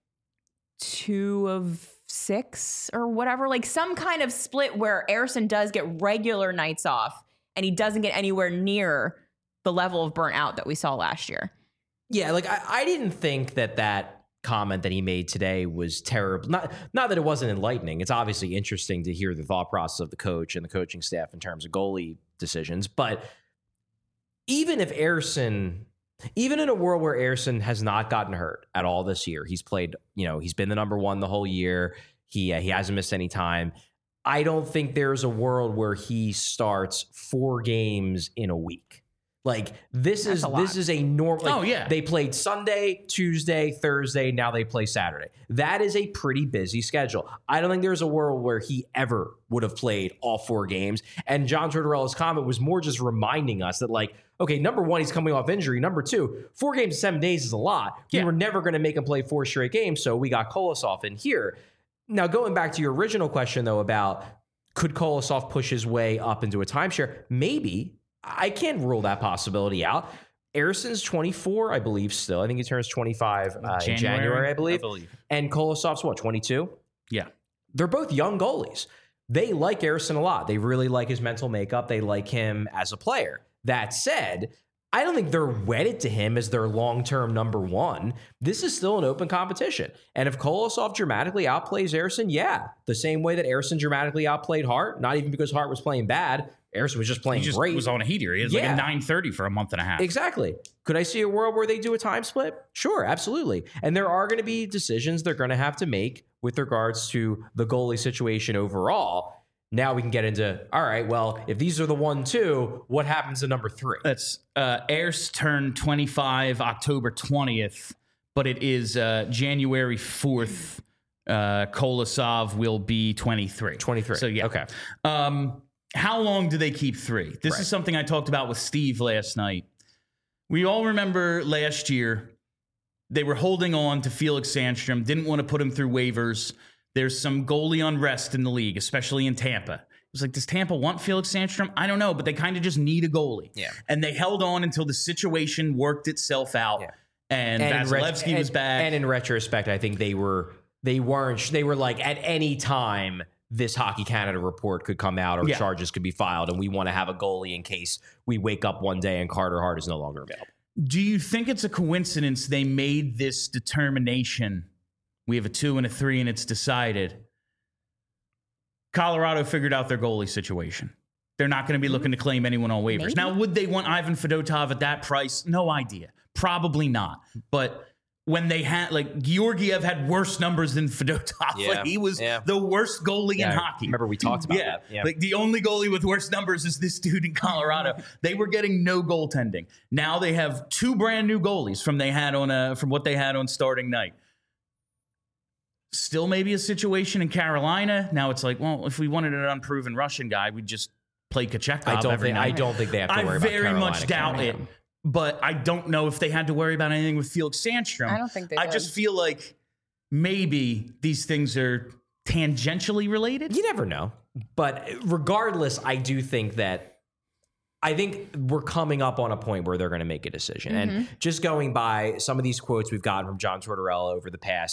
B: two of six or whatever, like some kind of split where Ersson does get regular nights off and he doesn't get anywhere near the level of burnt out that we saw last year.
C: Yeah, like I, I didn't think that that comment that he made today was terrible. Not not that it wasn't enlightening. It's obviously interesting to hear the thought process of the coach and the coaching staff in terms of goalie decisions. But even if Ersson, even in a world where Ersson has not gotten hurt at all this year, he's played, you know, he's been the number one the whole year. He uh, he hasn't missed any time. I don't think there's a world where he starts four games in a week. Like this
B: That's
C: is
B: a lot.
C: this is a normal. Like,
A: Oh, yeah.
C: They played Sunday, Tuesday, Thursday. Now they play Saturday. That is a pretty busy schedule. I don't think there's a world where he ever would have played all four games. And John Tortorella's comment was more just reminding us that, like, okay, number one, he's coming off injury. Number two, four games in seven days is a lot. We
A: Yeah.
C: were never going to make him play four straight games, so we got Kolosov in here. Now, going back to your original question, though, about could Kolosov push his way up into a timeshare? Maybe. I can't rule that possibility out. Ersson's twenty-four, I believe, still. I think he turns twenty-five uh, in January, I believe.
A: I believe.
C: And Kolosov's what, twenty-two?
A: Yeah.
C: They're both young goalies. They like Ersson a lot. They really like his mental makeup. They like him as a player. That said, I don't think they're wedded to him as their long-term number one. This is still an open competition. And if Kolosov dramatically outplays Ersson, yeah, the same way that Ersson dramatically outplayed Hart, not even because Hart was playing bad, Ersson was just playing
A: He just
C: great.
A: was on a heater. He was
C: Yeah.
A: like a nine thirty for a month and a half.
C: Exactly. Could I see a world where they do a time split? Sure, absolutely. And there are going to be decisions they're going to have to make with regards to the goalie situation overall. Now we can get into, all right, well, if these are the one, two, what happens to number three?
A: That's uh, Ers turned twenty-five October twentieth, but it is uh, January fourth. Uh, Kolosov will be twenty-three.
C: twenty-three.
A: So, yeah.
C: Okay.
A: Um, how long do they keep three? This
C: Right.
A: is something I talked about with Steve last night. We all remember last year, they were holding on to Felix Sandstrom, didn't want to put him through waivers. There's some goalie unrest in the league, especially in Tampa. It was like, does Tampa want Felix Sandstrom? I don't know, but they kind of just need a goalie.
C: Yeah.
A: And they held on until the situation worked itself out.
C: Yeah.
A: And,
C: in ret-
A: Vasilevsky was
C: and-
A: back.
C: And in retrospect, I think they were, they weren't, they were like, at any time, this Hockey Canada report could come out or
A: Yeah.
C: charges could be filed, and we want to have a goalie in case we wake up one day and Carter Hart is no longer available.
A: Do you think it's a coincidence they made this determination? We have a two and a three, and it's decided. Colorado figured out their goalie situation. They're not going to be looking to claim anyone on waivers.
B: Maybe.
A: Now, would they want Ivan Fedotov at that price? No idea. Probably not. But when they had, like, Georgiev had worse numbers than Fedotov.
C: Yeah.
A: Like, he was
C: Yeah.
A: the worst goalie
C: Yeah,
A: in
C: I
A: hockey.
C: remember we talked about
A: yeah.
C: that. Yeah.
A: Like, the only goalie with worse numbers is this dude in Colorado. They were getting no goaltending. Now they have two brand new goalies from they had on a, from what they had on starting night. Still maybe a situation in Carolina. Now it's like, well, if we wanted an unproven Russian guy, we'd just play Kochetkov
C: I don't
A: every
C: think,
A: night.
C: I don't think they have to
A: I
C: worry about
A: very
C: Carolina
A: much doubt
C: coming
A: it.
C: in.
A: But I don't know if they had to worry about anything with Felix Sandstrom.
B: I don't think they
A: I
B: did.
A: just feel like maybe these things are tangentially related.
C: You never know. But regardless, I do think that I think we're coming up on a point where they're going to make a decision.
B: Mm-hmm.
C: And just going by some of these quotes we've gotten from John Tortorella over the past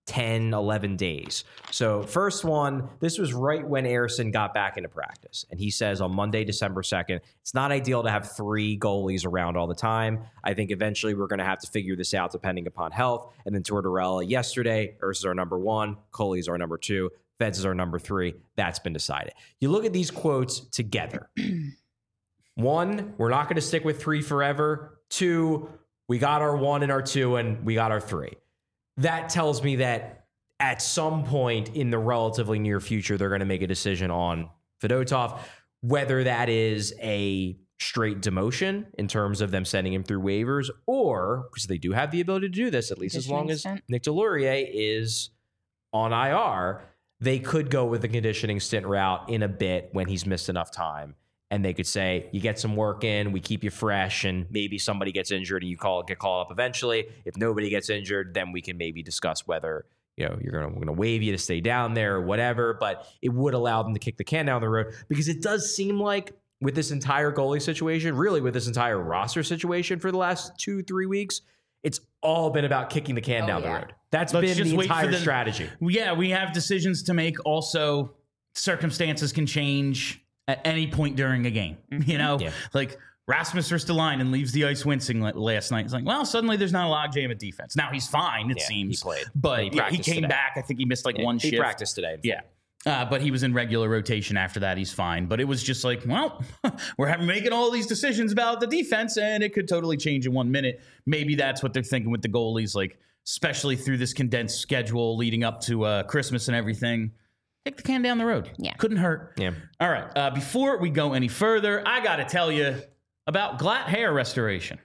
C: ten, eleven days. So first one, this was right when Ersson got back into practice. And he says on Monday, December second, it's not ideal to have three goalies around all the time. I think eventually we're going to have to figure this out depending upon health. And then Tortorella yesterday, Ersson is our number one, Coley is our number two, Feds is our number three. That's been decided. You look at these quotes together. One, we're not going to stick with three forever. Two, we got our one and our two, and we got our three. That tells me that at some point in the relatively near future, they're going to make a decision on Fedotov, whether that is a straight demotion in terms of them sending him through waivers, or because they do have the ability to do this, at least as long as Nick Delorier is on I R, they could go with the conditioning stint route in a bit when he's missed enough time. And they could say, you get some work in, we keep you fresh, and maybe somebody gets injured and you call get called up eventually. If nobody gets injured, then we can maybe discuss whether, you know, you're gonna we're gonna waive you to stay down there or whatever. But it would allow them to kick the can down the road, because it does seem like with this entire goalie situation, really with this entire roster situation for the last two, three weeks, it's all been about kicking the can oh, down yeah. the road. That's Let's been the entire the, strategy.
A: Yeah, we have decisions to make. Also, circumstances can change at any point during a game. You know, yeah. like Rasmus Ristolainen leaves the ice wincing last night. It's like, well, suddenly there's not a logjam at defense. Now he's fine, it
C: yeah,
A: seems.
C: He played.
A: But
C: he,
A: yeah, he came
C: today.
A: back. I think he missed like
C: yeah,
A: one
C: he
A: shift.
C: He practiced today.
A: Yeah. Uh, but he was in regular rotation after that. He's fine. But it was just like, well, we're having, making all these decisions about the defense, and it could totally change in one minute. Maybe that's what they're thinking with the goalies, like especially through this condensed schedule leading up to uh, Christmas and everything. Kick the can down the road.
B: Yeah.
A: Couldn't hurt.
C: Yeah.
A: All right. Uh, before we go any further, I got to tell you about Glatt Hair Restoration.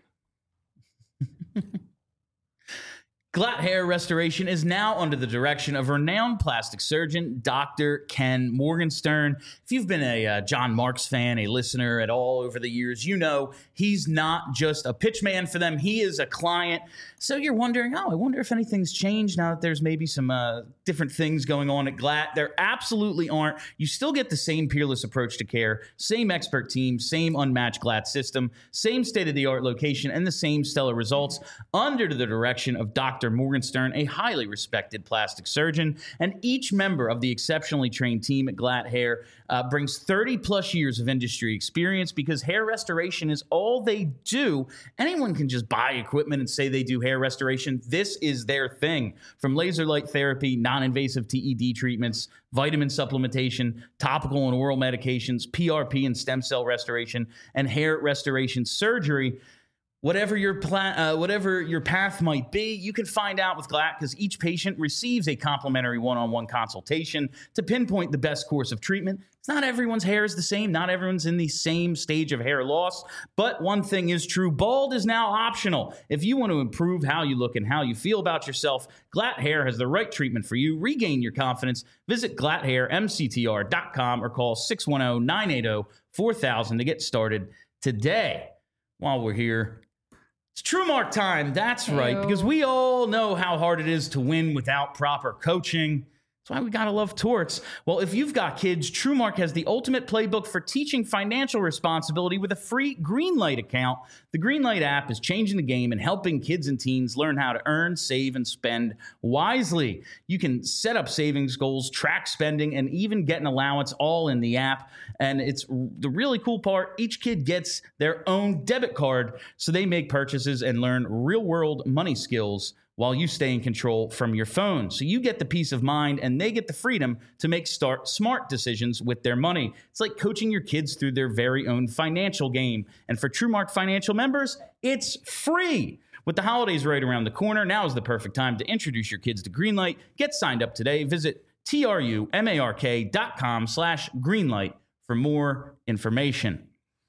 A: Glatt Hair Restoration is now under the direction of renowned plastic surgeon, Doctor Ken Morgenstern. If you've been a uh, John Marks fan, a listener at all over the years, you know he's not just a pitch man for them. He is a client. So you're wondering, oh, I wonder if anything's changed now that there's maybe some uh, different things going on at Glatt. There absolutely aren't. You still get the same peerless approach to care, same expert team, same unmatched Glatt system, same state-of-the-art location, and the same stellar results under the direction of Doctor Morgenstern, a highly respected plastic surgeon. And each member of the exceptionally trained team at Glatt Hair uh, brings thirty plus years of industry experience, because hair restoration is all they do. Anyone can just buy equipment and say they do hair restoration. This is their thing. From laser light therapy, non-invasive T E D treatments, vitamin supplementation, topical and oral medications, P R P and stem cell restoration, and hair restoration surgery. Whatever your plan, uh, whatever your path might be, you can find out with Glatt, because each patient receives a complimentary one-on-one consultation to pinpoint the best course of treatment. It's not everyone's hair is the same. Not everyone's in the same stage of hair loss. But one thing is true. Bald is now optional. If you want to improve how you look and how you feel about yourself, Glatt Hair has the right treatment for you. Regain your confidence. Visit glatt hair m c t r dot com or call six one zero, nine eight zero, four thousand to get started today. While we're here, it's TrueMark time. That's right, because we all know how hard it is to win without proper coaching. That's why we gotta love torts. Well, if you've got kids, TrueMark has the ultimate playbook for teaching financial responsibility with a free Greenlight account. The Greenlight app is changing the game and helping kids and teens learn how to earn, save, and spend wisely. You can set up savings goals, track spending, and even get an allowance all in the app. And it's the really cool part, each kid gets their own debit card, so they make purchases and learn real-world money skills while you stay in control from your phone. So you get the peace of mind, and they get the freedom to make start smart decisions with their money. It's like coaching your kids through their very own financial game. And for TrueMark Financial members, it's free. With the holidays right around the corner, now is the perfect time to introduce your kids to Greenlight. Get signed up today. Visit T-R-U-M-A-R-K dot com slash Greenlight for more information.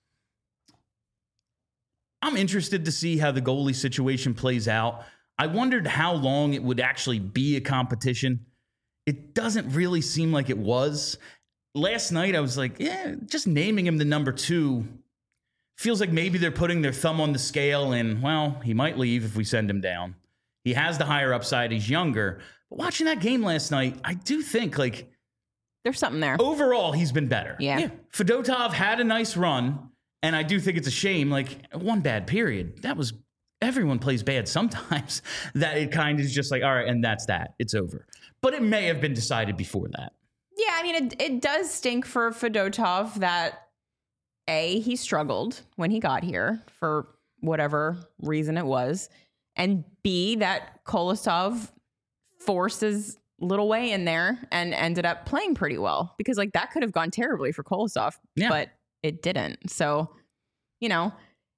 A: I'm interested to see how the goalie situation plays out. I wondered how long it would actually be a competition. It doesn't really seem like it was. Last night, I was like, yeah, just naming him the number two feels like maybe they're putting their thumb on the scale and, well, he might leave if we send him down. He has the higher upside. He's younger. But watching that game last night, I do think, like,
B: there's something there.
A: Overall, he's been better.
B: Yeah. yeah.
A: Fedotov had a nice run, and I do think it's a shame. Like, one bad period. That was everyone plays bad sometimes, that it kind of is just like, all right, and that's that. It's over. But it may have been decided before that.
B: Yeah, I mean, it, it does stink for Fedotov that, A, he struggled when he got here for whatever reason it was, and B, that Kolosov forced his little way in there and ended up playing pretty well, because like that could have gone terribly for Kolosov,
A: Yeah.
B: but it didn't. So, you know,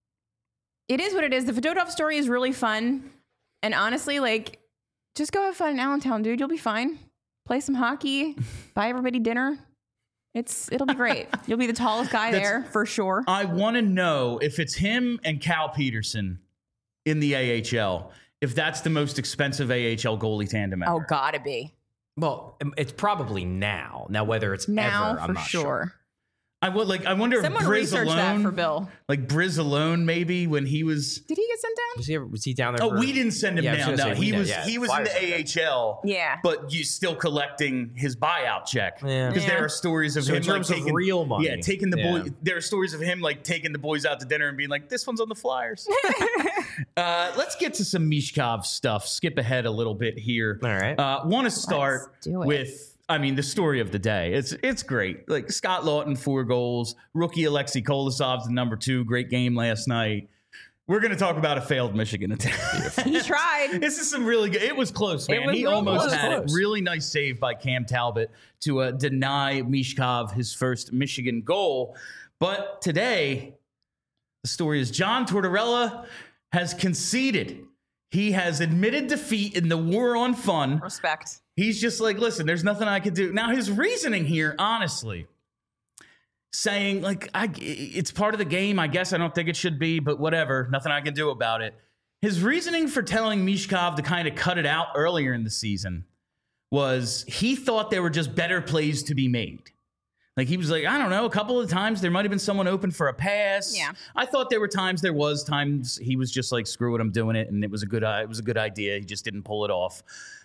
B: it is what it is. The Fedotov story is really fun. And honestly, like, just go have fun in Allentown, dude. You'll be fine. Play some hockey, buy everybody dinner. It's it'll be great. You'll be the tallest guy
A: That's-
B: there for sure.
A: I want to know if it's him and Cal Peterson in the A H L, if that's the most expensive A H L goalie tandem ever.
B: Oh, gotta be.
C: Well, it's probably now. Now, whether it's
B: Now
C: ever, I'm
B: for
C: not
B: sure.
C: sure.
A: I would like. I wonder
B: Someone
A: if Briz
B: research that
A: alone,
B: for Bill.
A: like Briz alone, maybe when he was.
B: Did he get sent down?
C: Was he ever, was he down there?
A: Oh,
C: for-
A: we didn't send him
C: Yeah, I was
A: down.
C: gonna
A: No,
C: say, we
A: he
C: know,
A: was
C: yeah,
A: he was in
C: Flyers
A: the A H L.
B: Yeah.
A: but you still collecting his buyout check.
C: Yeah.
A: because
B: Yeah.
A: there are stories of
C: So
A: him
C: in terms
A: like
C: of
A: taking,
C: real money.
A: Yeah, taking the
C: Yeah.
A: boy. There are stories of him like taking the boys out to dinner and being like, "This one's on the Flyers." uh, let's get to some Mishkov stuff. Skip ahead a little bit here.
C: All right.
A: Uh, Want to start
B: Let's do it.
A: with. I mean, the story of the day. It's it's great. Like Scott Lawton, four goals. Rookie Alexei Kolosov's the number two. Great game last night. We're going to talk about a failed Michigan attack.
B: He tried.
A: This is some really good. It was close, man.
B: was
A: He
B: real
A: almost
B: close.
A: had it.
C: Close.
A: Really nice save by Cam Talbot to uh, deny Mishkov his first Michigan goal. But today, the story is John Tortorella has conceded. He has admitted defeat in the war on fun.
B: Respect.
A: He's just like, listen, there's nothing I can do. Now, his reasoning here, honestly, saying, like, I, it's part of the game. I guess I don't think it should be, but whatever. Nothing I can do about it. His reasoning for telling Mishkov to kind of cut it out earlier in the season was he thought there were just better plays to be made. Like, he was like, I don't know, a couple of times there might have been someone open for a pass.
B: Yeah.
A: I thought there were times there was times he was just like, screw it, I'm doing it. And it was a good, uh, it was a good idea. He just didn't pull it off.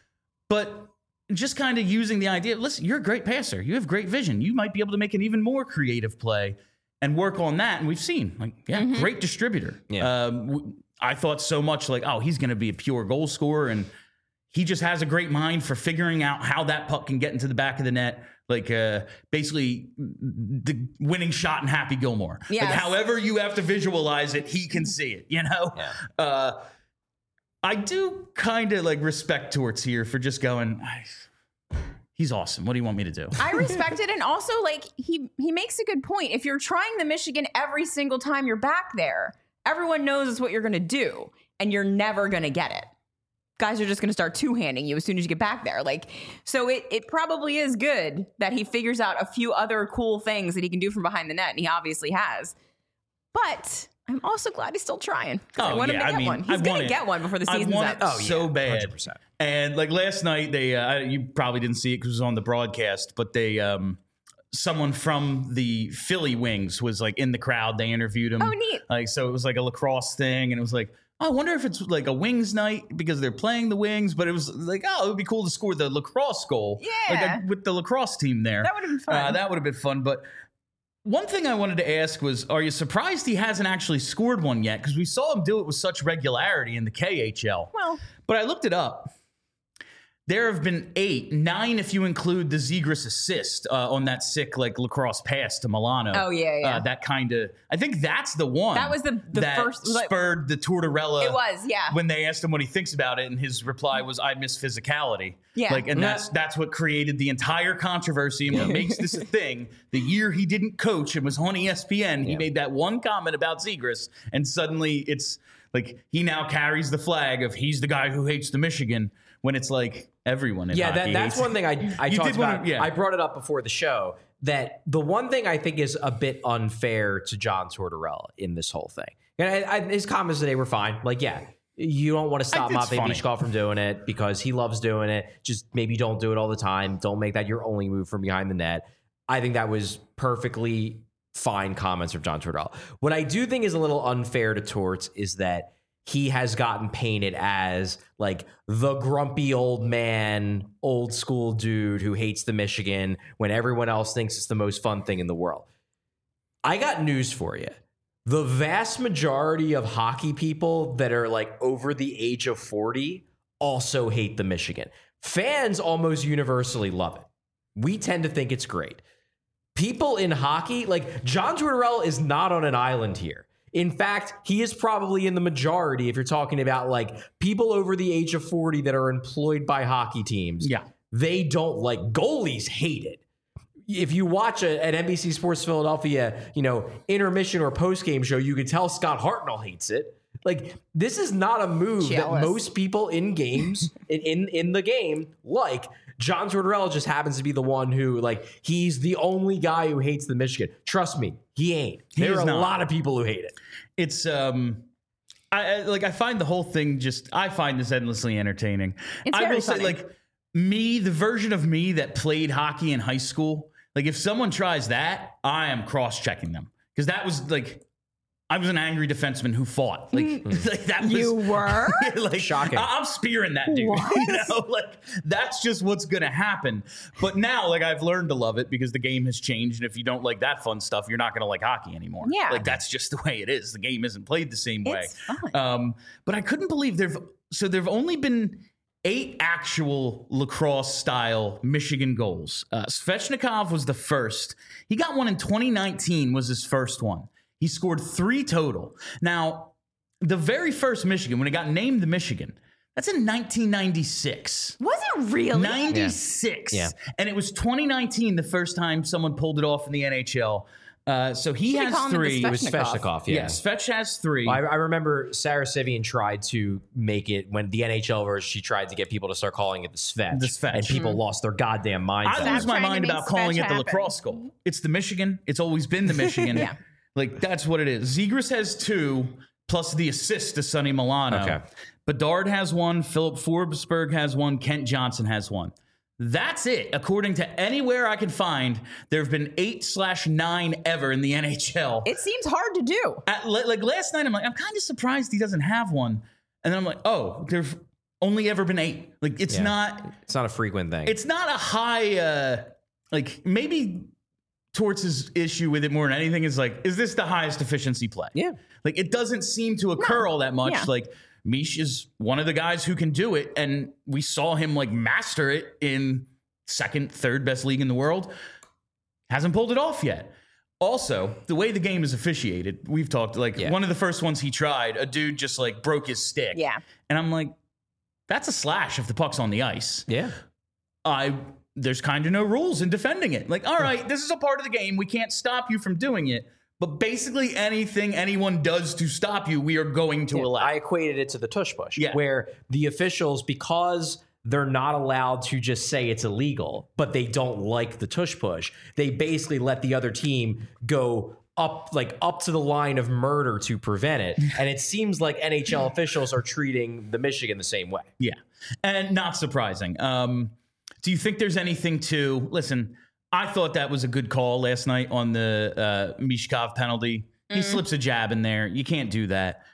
A: But just kind of using the idea, listen, you're a great passer. You have great vision. You might be able to make an even more creative play and work on that. And we've seen, like, yeah,
B: Mm-hmm.
A: great distributor.
C: Yeah.
A: Um, w- I thought so much like, oh, he's going to be a pure goal scorer. And he just has a great mind for figuring out how that puck can get into the back of the net. Like, uh, basically, the winning shot in Happy Gilmore. Like,
B: Yes.
A: however you have to visualize it, he can see it, you know?
C: Yeah.
A: Uh, I do kind of like respect Torts here for just going, "I- he's awesome. What do you want me to do?
B: I respect it. And also, like, he he makes a good point. If you're trying the Michigan every single time you're back there, everyone knows it's what you're going to do, and you're never going to get it. Guys are just going to start two-handing you as soon as you get back there. Like, so it it probably is good that he figures out a few other cool things that he can do from behind the net, and he obviously has. But I'm also glad he's still trying. 'Cause I
A: Oh,
B: want
A: yeah,
B: him to
A: I
B: get
A: mean,
B: one.
A: I
B: He's
A: want
B: going to
A: it.
B: get one before the
A: I
B: season's
A: want
B: up.
A: it
C: Oh, yeah,
A: so
C: one
A: bad.
C: hundred percent.
A: And like last night, they uh, you probably didn't see it because it was on the broadcast, but they um, someone from the Philly Wings was like in the crowd. They interviewed him.
B: Oh, neat.
A: Like, so it was like a lacrosse thing, and it was like, oh, I wonder if it's like a Wings night because they're playing the Wings. But it was like, oh, it would be cool to score the lacrosse goal, like
B: Yeah.
A: uh, with the lacrosse team there.
B: That would have been fun.
A: Uh, that would have been fun. But one thing I wanted to ask was, are you surprised he hasn't actually scored one yet? Because we saw him do it with such regularity in the K H L.
B: Well,
A: But I looked it up. There have been eight, nine if you include the Zegras assist uh, on that sick like lacrosse pass to Milano.
B: Oh, yeah, yeah.
A: Uh, that kind of. I think that's the one.
B: That was the- the
A: that
B: first- like-
A: spurred the Tortorella.
B: it was, yeah.
A: When they asked him what he thinks about it, and his reply was, "I miss physicality."
B: Yeah.
A: Like, and
C: Yeah.
A: that's that's what created the entire controversy and what makes this a thing. The year he didn't coach and was on E S P N, he
C: Yeah.
A: made that one comment about Zegras, and suddenly it's like he now carries the flag of he's the guy who hates the Michigan. When it's like everyone in
C: Yeah, that,
A: hockey
C: that's
A: hates
C: one thing I, I
A: You
C: talked
A: did wanna-
C: about.
A: yeah.
C: I brought it up before the show that the one thing I think is a bit unfair to John Tortorella in this whole thing. And I, I, his comments today were fine. Like, yeah, you don't want to stop
A: I- it's
C: Matvei
A: funny.
C: Mishkov from doing it because he loves doing it. Just maybe don't do it all the time. Don't make that your only move from behind the net. I think that was perfectly fine comments from John Tortorella. What I do think is a little unfair to Torts is that he has gotten painted as like the grumpy old man, old school dude who hates the Michigan when everyone else thinks it's the most fun thing in the world. I got news for you. the vast majority of hockey people that are like over the age of forty also hate the Michigan. Fans almost universally love it. We tend to think it's great. People in hockey, like John Tortorella is not on an island here. In fact, he is probably in the majority if you're talking about like people over the age of forty that are employed by hockey teams.
A: Yeah.
C: They don't like goalies hate it. If you watch a, an N B C Sports Philadelphia, you know, intermission or post-game show, you can tell Scott Hartnell hates it. Like, this is not a move
B: Jealous.
C: that most people in games, in, in in the game, like. John Tortorella just happens to be the one who, like, he's the only guy who hates the Michigan. Trust me, he ain't.
A: He
C: there
A: is
C: are a
A: not.
C: lot of people who hate it.
A: It's um, I I- like I find the whole thing just I find this endlessly entertaining.
B: It's
A: I
B: very
A: will
B: funny.
A: say, like me, the version of me that played hockey in high school. Like if someone tries that, I am cross-checking them because that was like. I was an angry defenseman who fought. Like, like that was
B: You were?
A: like
C: Shocking.
A: I- I'm spearing that dude.
B: What?
A: You know, like that's just what's gonna happen. But now, like I've learned to love it because the game has changed, and if you don't like that fun stuff, you're not gonna like hockey anymore.
B: Yeah.
A: like that's just the way it is. The game isn't played the same way.
B: It's fun.
A: Um, but I couldn't believe there've so there've only been eight actual lacrosse style Michigan goals. Uh, Svechnikov was the first. He got one in twenty nineteen. Was his first one. He scored three total. Now, the very first Michigan, when it got named the Michigan, that's in nineteen ninety-six.
B: Was it really?
A: ninety-six.
C: Yeah.
A: And it was twenty nineteen the first time someone pulled it off in the N H L. Uh, so he
B: Should we
A: has
B: call him the
A: three.
C: It was
B: Svechnikov.
C: Svechnikov, yeah.
A: Yeah, Svech has three.
C: I, I remember Sarah Sivian tried to make it when the N H L version, she tried to get people to start calling it the Svech.
A: The Svech.
C: And people lost their goddamn minds.
A: I
C: on
A: lose
C: it.
A: my
B: trying to
A: mind
B: make
A: about calling
B: Svech
A: it the
B: happen.
A: lacrosse goal. It's the Michigan. It's always been the Michigan.
B: Yeah.
A: Like, that's what it is. Zegras has two, plus the assist to Sonny Milano.
C: Okay.
A: Bedard has one. Philip Forsberg has one. Kent Johnson has one. That's it. According to anywhere I can find, there have been eight slash nine ever in the N H L.
B: It seems hard to do.
A: At, like last night, I'm like, I'm kind of surprised he doesn't have one. And then I'm like, oh, there's only ever been eight. Like, it's
C: Yeah.
A: not...
C: It's not a frequent thing.
A: It's not a high, uh, like maybe Torts' issue with it more than anything is like, is this the highest efficiency play?
C: Yeah.
A: Like it doesn't seem to occur all that much.
B: Yeah.
A: Like Mish is one of the guys who can do it. And we saw him like master it in second, third best league in the world. Hasn't pulled it off yet. Also, the way the game is officiated, we've talked like
C: Yeah.
A: one of the first ones he tried, a dude just like broke his stick.
B: Yeah.
A: And I'm like, that's a slash if the puck's on the ice.
C: yeah.
A: I there's kind of no rules in defending it. Like, all right, this is a part of the game. We can't stop you from doing it. But basically anything anyone does to stop you, we are going to allow.
C: I equated it to the tush push,
A: Yeah.
C: where the officials, because they're not allowed to just say it's illegal, but they don't like the tush push, they basically let the other team go up like up to the line of murder to prevent it. And it seems like N H L officials are treating the Michigan the same way.
A: Yeah. And not surprising. Um, do you think there's anything to listen? I thought that was a good call last night on the uh, Mishkov penalty. He slips a jab in there. You can't do that.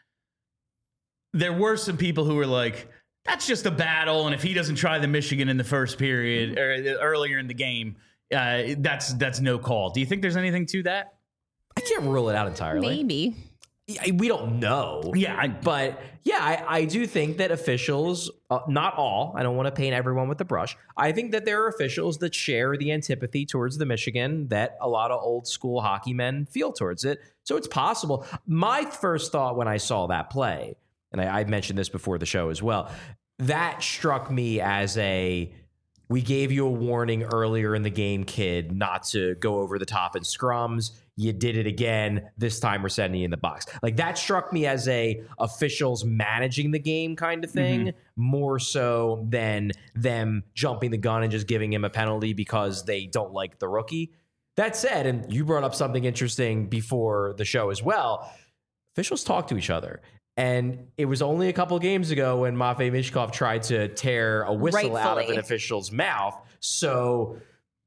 A: There were some people who were like, that's just a battle. And if he doesn't try the Michigan in the first period or earlier in the game, uh, that's that's no call. Do you think there's anything to that?
C: I can't rule it out entirely.
B: Maybe.
C: I- We don't know.
A: Yeah, I,
C: But yeah, I, I do think that officials, uh, not all, I don't want to paint everyone with the brush. I think that there are officials that share the antipathy towards the Michigan that a lot of old school hockey men feel towards it. So it's possible. My first thought when I saw that play, and I, I mentioned this before the show as well, that struck me as a, we gave you a warning earlier in the game, kid, not to go over the top in scrums. You did it again. This time we're sending you in the box. Like that struck me as a officials managing the game kind of thing,
A: Mm-hmm.
C: more so than them jumping the gun and just giving him a penalty because they don't like the rookie. That said, and you brought up something interesting before the show as well, officials talk to each other. And it was only a couple of games ago when Matvei Mishkov tried to tear a whistle out of
B: Rightfully.
C: an official's mouth. So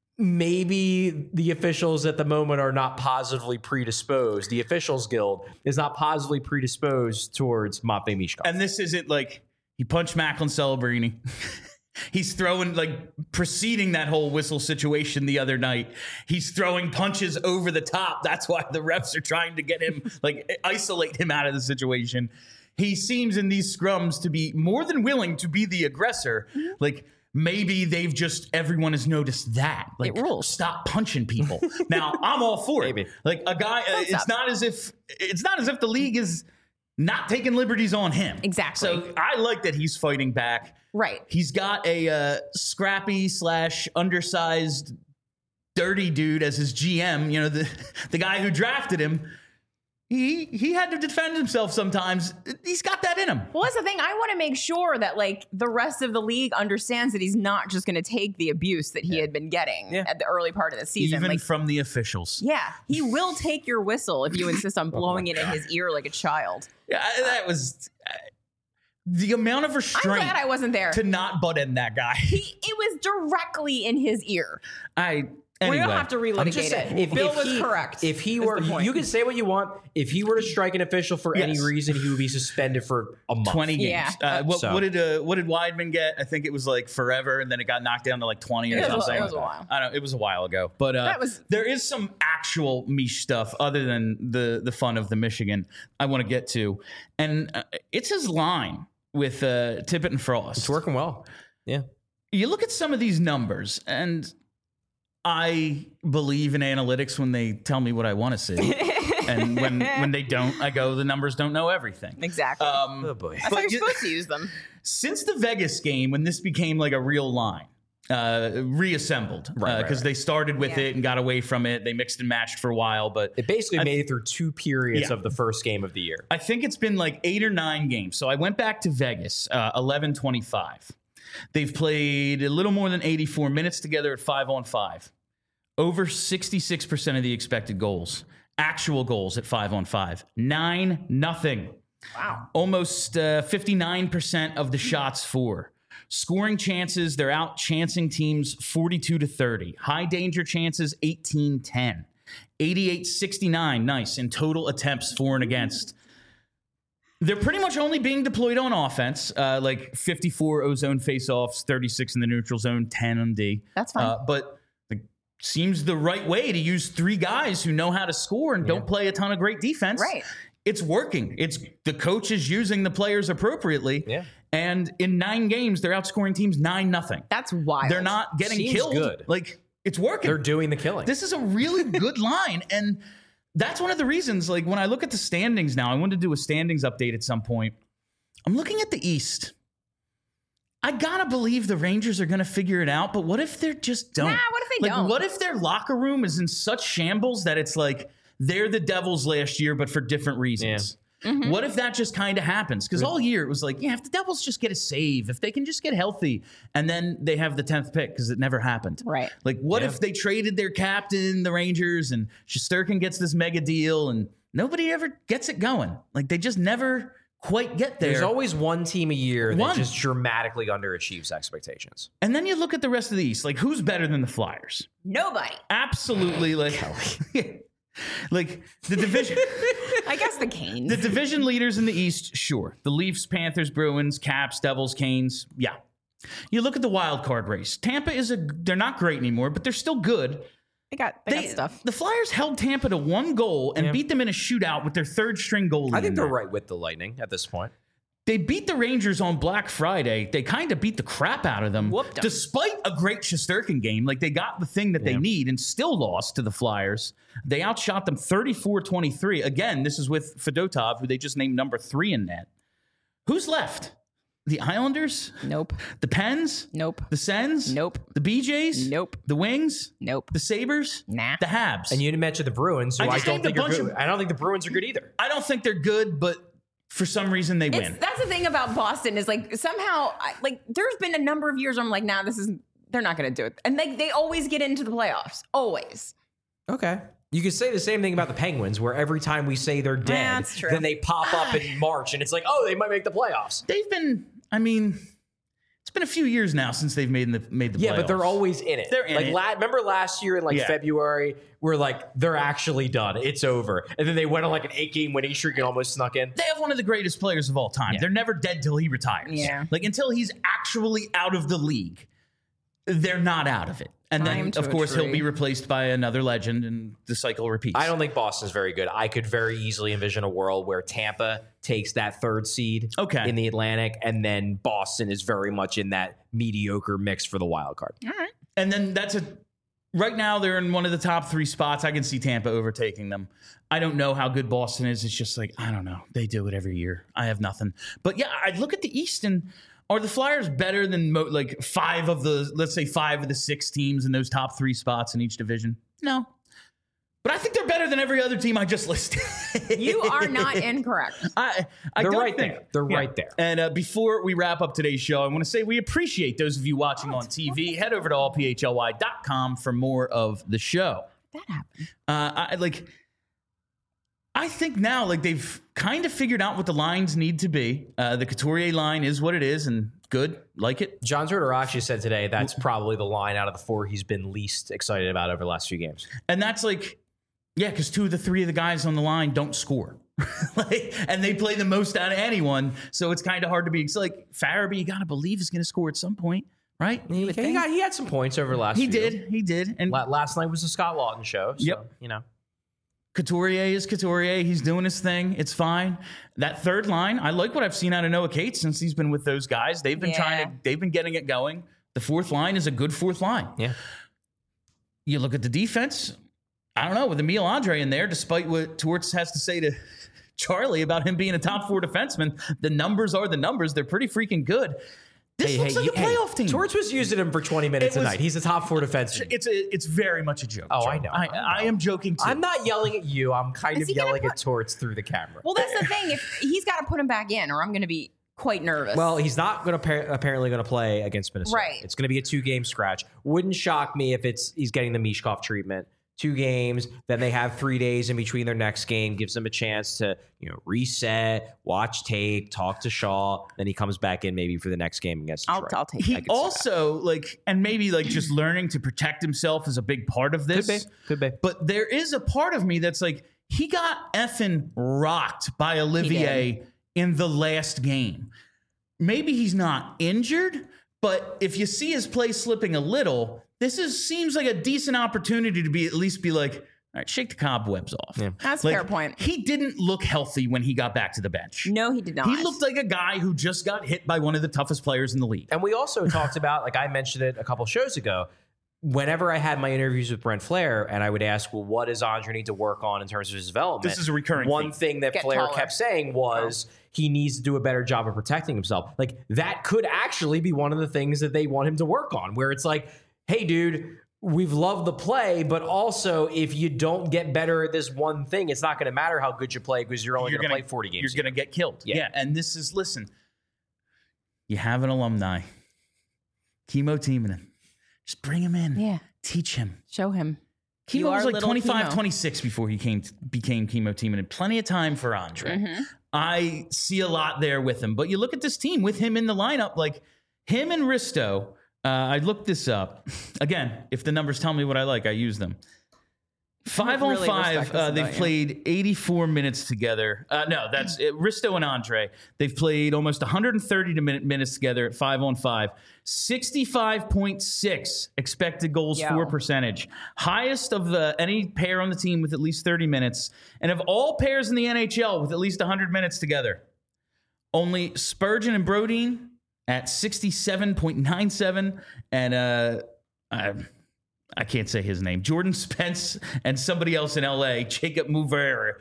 C: maybe the officials at the moment are not positively predisposed. The officials guild is not positively predisposed towards Matvei Mishkov.
A: and this isn't like he punched Macklin Celebrini. He's throwing, like, preceding that whole whistle situation the other night, he's throwing punches over the top. That's why the refs are trying to get him, like, isolate him out of the situation. He seems in these scrums to be more than willing to be the aggressor. Mm-hmm. Like, maybe they've just, everyone has noticed that. Like,
B: it rules.
A: Stop punching people. Now, I'm all for
C: maybe.
A: it. Like, a guy, uh, it's not as if, it's not as if the league is not taking liberties on him.
B: Exactly.
A: So I like that he's fighting back.
B: Right.
A: He's got a uh, scrappy slash undersized dirty dude as his G M. You know, the the guy who drafted him. He he had to defend himself sometimes. He's got that in him.
B: Well, that's the thing. I want to make sure that like the rest of the league understands that he's not just going to take the abuse that he yeah. had been getting yeah. at the early part of the season.
A: Even
B: like,
A: from the officials.
B: Yeah. He will take your whistle if you insist on blowing oh it in his ear like a child.
A: Yeah, that was... Uh, the amount of restraint.
B: I'm glad I wasn't there.
A: To not butt in that guy.
B: He, it was directly in his ear.
A: I...
B: Anyway, we don't have to
C: I'm
B: relitigate
C: just saying,
B: it.
C: If,
B: Bill
C: if
B: was
C: he,
B: correct.
C: If he were, you can say what you want. If he were to strike an official for
A: yes.
C: any reason, he would be suspended for a month.
A: twenty games.
B: Yeah.
A: Uh, what,
C: so.
A: what did uh, what did Weidman get? I think it was like forever, and then it got knocked down to like twenty or
B: it
A: something.
B: Was, it was a while.
A: I don't know. It was a while ago, but uh,
B: that was,
A: there is some actual Mish stuff other than the the fun of the Michigan I want to get to, and uh, it's his line with uh, Tippett and Frost.
C: It's working well. Yeah.
A: You look at some of these numbers, and I believe in analytics when they tell me what I want to see. And when, when they don't, I go, the numbers don't know everything.
B: Exactly.
A: Um,
C: oh, boy.
B: That's how you're you, supposed to use them.
A: Since the Vegas game, when this became like a real line, uh, reassembled, because
C: right,
A: uh,
C: right, right.
A: they started with
B: yeah.
A: it and got away from it. They mixed and matched for a while, but
C: it basically I, made it through two periods
A: yeah.
C: of the first game of the year.
A: I think it's been like eight or nine games. So I went back to Vegas, uh, eleven twenty-five. They've played a little more than eighty-four minutes together at five on five. Over sixty-six percent of the expected goals. Actual goals at five on five. Nine, nothing.
B: Wow.
A: Almost uh, fifty-nine percent of the shots for. Scoring chances, they're out chancing teams forty-two to thirty. High danger chances, eighteen ten. eighty-eight sixty-nine, nice. In total attempts for and against. They're pretty much only being deployed on offense, uh, like fifty-four O-zone faceoffs, thirty-six in the neutral zone, ten on D.
B: That's fine.
A: Uh, but it seems the right way to use three guys who know how to score and yeah. don't play a ton of great defense.
B: Right.
A: It's working. It's the coach is using the players appropriately.
C: Yeah.
A: And in nine games, they're outscoring teams nine nothing.
B: That's wild.
A: They're not getting
C: Seems
A: killed.
C: good.
A: Like, it's working.
C: They're doing the killing.
A: This is a really good line. And that's one of the reasons, like, when I look at the standings now, I want to do a standings update at some point. I'm looking at the East. I gotta believe the Rangers are gonna figure it out, but what if they just don't?
B: Nah, what if they
A: like,
B: don't?
A: What if their locker room is in such shambles that it's like they're the Devils last year, but for different reasons? Yeah. Mm-hmm. What if that just kind of happens? Because all year it was like, yeah, if the Devils just get a save, if they can just get healthy, and then they have the tenth pick because it never happened.
B: Right.
A: Like, what
C: yeah.
A: if they traded their captain, the Rangers, and Shesterkin gets this mega deal, and nobody ever gets it going? Like, they just never quite get there.
C: There's always one team a year
A: One.
C: that just dramatically underachieves expectations.
A: And then you look at the rest of the East. Like, who's better than the Flyers?
B: Nobody.
A: Absolutely. Like, like the division.
B: I guess the Canes.
A: The division leaders in the East, sure. The Leafs, Panthers, Bruins, Caps, Devils, Canes. Yeah. You look at the wild card race. Tampa is a, they're not great anymore, but they're still good.
B: They got, they,
A: They,
B: got stuff.
A: The Flyers held Tampa to one goal and
C: Yeah.
A: beat them in a shootout with their third string goalie.
C: I think
A: in
C: they're
A: there.
C: right with the Lightning at this point.
A: They beat the Rangers on Black Friday. They kind of beat the crap out of them,
B: Whooped 'em.
A: despite a great Shesterkin game. Like, they got the thing that they
C: Yeah.
A: need and still lost to the Flyers. They outshot them thirty-four twenty-three. Again, this is with Fedotov, who they just named number three in net. Who's left? The Islanders?
B: Nope.
A: The Pens?
B: Nope.
A: The Sens?
B: Nope.
A: The B Js?
B: Nope.
A: The Wings?
B: Nope.
A: The Sabres?
B: Nah.
A: The Habs?
C: And you didn't mention the Bruins, who
A: I
C: I,
A: just
C: don't
A: named a
C: think are
A: bunch
C: good.
A: of-
C: I don't think the Bruins are good either.
A: I don't think they're good, but for some reason they
B: It's,
A: win.
B: that's the thing about Boston is like somehow I, like there's been a number of years where I'm like, nah, this is they're not going to do it, and they they always get into the playoffs, always.
C: Okay. You could say the same thing about the Penguins, where every time we say they're dead,
B: That's true.
C: then they pop up in March, and it's like, oh, they might make the playoffs.
A: They've been, I mean, it's been a few years now since they've made the made the
C: Yeah,
A: playoffs.
C: but they're always in it.
A: They're in
C: like
A: it.
C: La- remember last year in like
A: Yeah.
C: February, we're like they're actually done. It's over, and then they went on like an eight game winning streak and almost snuck in.
A: They have one of the greatest players of all time.
C: Yeah.
A: They're never dead till he retires.
B: Yeah.
A: Like until he's actually out of the league, they're not out of it. And
B: Tie him
A: then,
B: to
A: of
B: a
A: course, he'll
B: tree.
A: be replaced by another legend, and the cycle repeats.
C: I don't think Boston's very good. I could very easily envision a world where Tampa takes that third seed
A: Okay.
C: in the Atlantic, and then Boston is very much in that mediocre mix for the wild card.
B: All right.
A: And then that's a. Right now, they're in one of the top three spots. I can see Tampa overtaking them. I don't know how good Boston is. It's just like, I don't know. They do it every year. I have nothing. But yeah, I look at the East, and are the Flyers better than mo- like five of the, let's say five of the six teams in those top three spots in each division? No. But I think they're better than every other team I just listed.
B: You are not incorrect.
A: I, I
C: They're
A: don't
C: right
A: think,
C: there. They're right there.
A: And uh, before we wrap up today's show, I want to say we appreciate those of you watching on T V. Head over to all p h l y dot com for more of the show.
B: That happened.
A: Uh, I like. I think now, like they've kind of figured out what the lines need to be. Uh, the Couturier line is what it is, and good, like it.
C: John Tortoracci said today that's probably the line out of the four he's been least excited about over the last few games.
A: And that's like, yeah, because two of the three of the guys on the line don't score. like, and they play the most out of anyone. So it's kind of hard to be. It's like Farabee, you got to believe is going to score at some point, right?
C: He,
A: would
C: he
A: think.
C: got he had some points over the last
A: He
C: few.
A: did. He did. And
C: La- Last night was the Scott Lawton show. So,
A: Yep.
C: you know.
A: Couturier is Couturier. He's doing his thing. It's fine. That third line, I like what I've seen out of Noah Cates since he's been with those guys. They've been
B: Yeah.
A: trying to, they've been getting it going. The fourth line is a good fourth line.
C: Yeah.
A: You look at the defense, I don't know, with Emil Andre in there, despite what Torts has to say to Charlie about him being a top four defenseman, the numbers are the numbers. They're pretty freaking good. This looks like
C: you-
A: a playoff team.
C: Torts was using him for twenty minutes
A: It was-
C: a night. He's a top four defenseman.
A: It's a, it's very much a joke.
C: Oh,
A: Joe.
C: I know.
A: I,
C: I know.
A: I am joking too.
C: I'm not yelling at you. I'm kind
B: Is
C: of
B: he gonna
C: yelling
B: put-
C: at Torts through the camera.
B: Well, that's the thing. If he's got to put him back in, or I'm going to be quite nervous.
C: Well, he's not going to apparently going to play against Minnesota.
B: Right.
C: It's going to be a two game scratch. Wouldn't shock me if it's he's getting the Mishkov treatment. Two games, then they have three days in between their next game. Gives them a chance to you know reset, watch tape, talk to Shaw. Then he comes back in maybe for the next game against
B: I'll,
C: Detroit.
B: I'll take
A: He
B: it.
A: also like, and maybe like just learning to protect himself is a big part of this.
C: Could be. Could be.
A: But there is a part of me that's like, he got effing rocked by Olivier in the last game. Maybe he's not injured, but if you see his play slipping a little, this is seems like a decent opportunity to be at least be like, all right, shake the cobwebs off.
C: Yeah.
B: That's a
A: Like,
B: fair point.
A: He didn't look healthy when he got back to the bench.
B: No, he did not.
A: He looked like a guy who just got hit by one of the toughest players in the league.
C: And we also talked about, like I mentioned it a couple shows ago, whenever I had my interviews with Brent Flair and I would ask, well, what does Andre need to work on in terms of his development?
A: This is a recurring
C: One
A: theme.
C: thing that
B: Get
C: Flair
B: taller.
C: kept saying was he needs to do a better job of protecting himself. Like that could actually be one of the things that they want him to work on, where it's like, hey, dude, we've loved the play, but also if you don't get better at this one thing, it's not going to matter how good you play because you're only
A: You're
C: going to
A: gonna-
C: play forty games.
A: You're going to get killed.
C: Yeah.
A: Yeah. And this is, listen, you have an alumni, Chemo Timonen. Just bring him in.
B: Yeah.
A: Teach him.
B: Show him. You
A: Chemo
B: are
A: was like
B: little
A: twenty-five,
B: Chemo.
A: twenty-six before he came became Chemo Timonen. Plenty of time for Andre.
B: Mhm.
A: I see a lot there with him. But you look at this team with him in the lineup, like him and Risto. Uh, I looked this up. Again, if the numbers tell me what I like, I use them. Five on
B: really
A: five,
B: respect this
A: uh, they've
B: about you.
A: played eighty-four minutes together. Uh, no, that's uh, Risto and Andre. They've played almost one hundred thirty to min- minutes together at five on five. sixty-five point six expected goals
B: Yo.
A: for percentage. Highest of the any pair on the team with at least thirty minutes. And of all pairs in the N H L with at least one hundred minutes together, only Spurgeon and Brodeen at sixty-seven point nine seven. And uh, I, I can't say his name. Jordan Spence and somebody else in L A, Jacob Mover.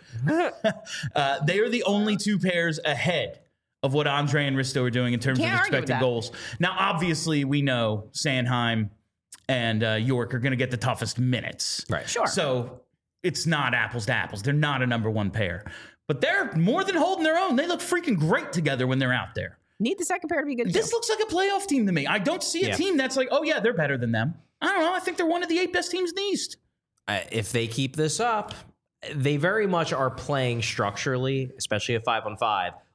A: uh, they are the only two pairs ahead of what Andre and Risto are doing in terms
B: Can't
A: of
B: argue with
A: expected
B: that.
A: goals. Now, obviously, we know Sanheim and uh, York are going to get the toughest minutes.
C: Right.
B: Sure.
A: So it's not apples to apples. They're not a number one pair. But they're more than holding their own. They look freaking great together when they're out there.
B: Need the second pair to be good.
A: This
B: too.
A: looks like a playoff team to me. I don't see a
C: Yeah.
A: team that's like, oh, yeah, they're better than them. I don't know. I think they're one of the eight best teams in the East.
C: Uh, if they keep this up, they very much are playing structurally, especially at five on five,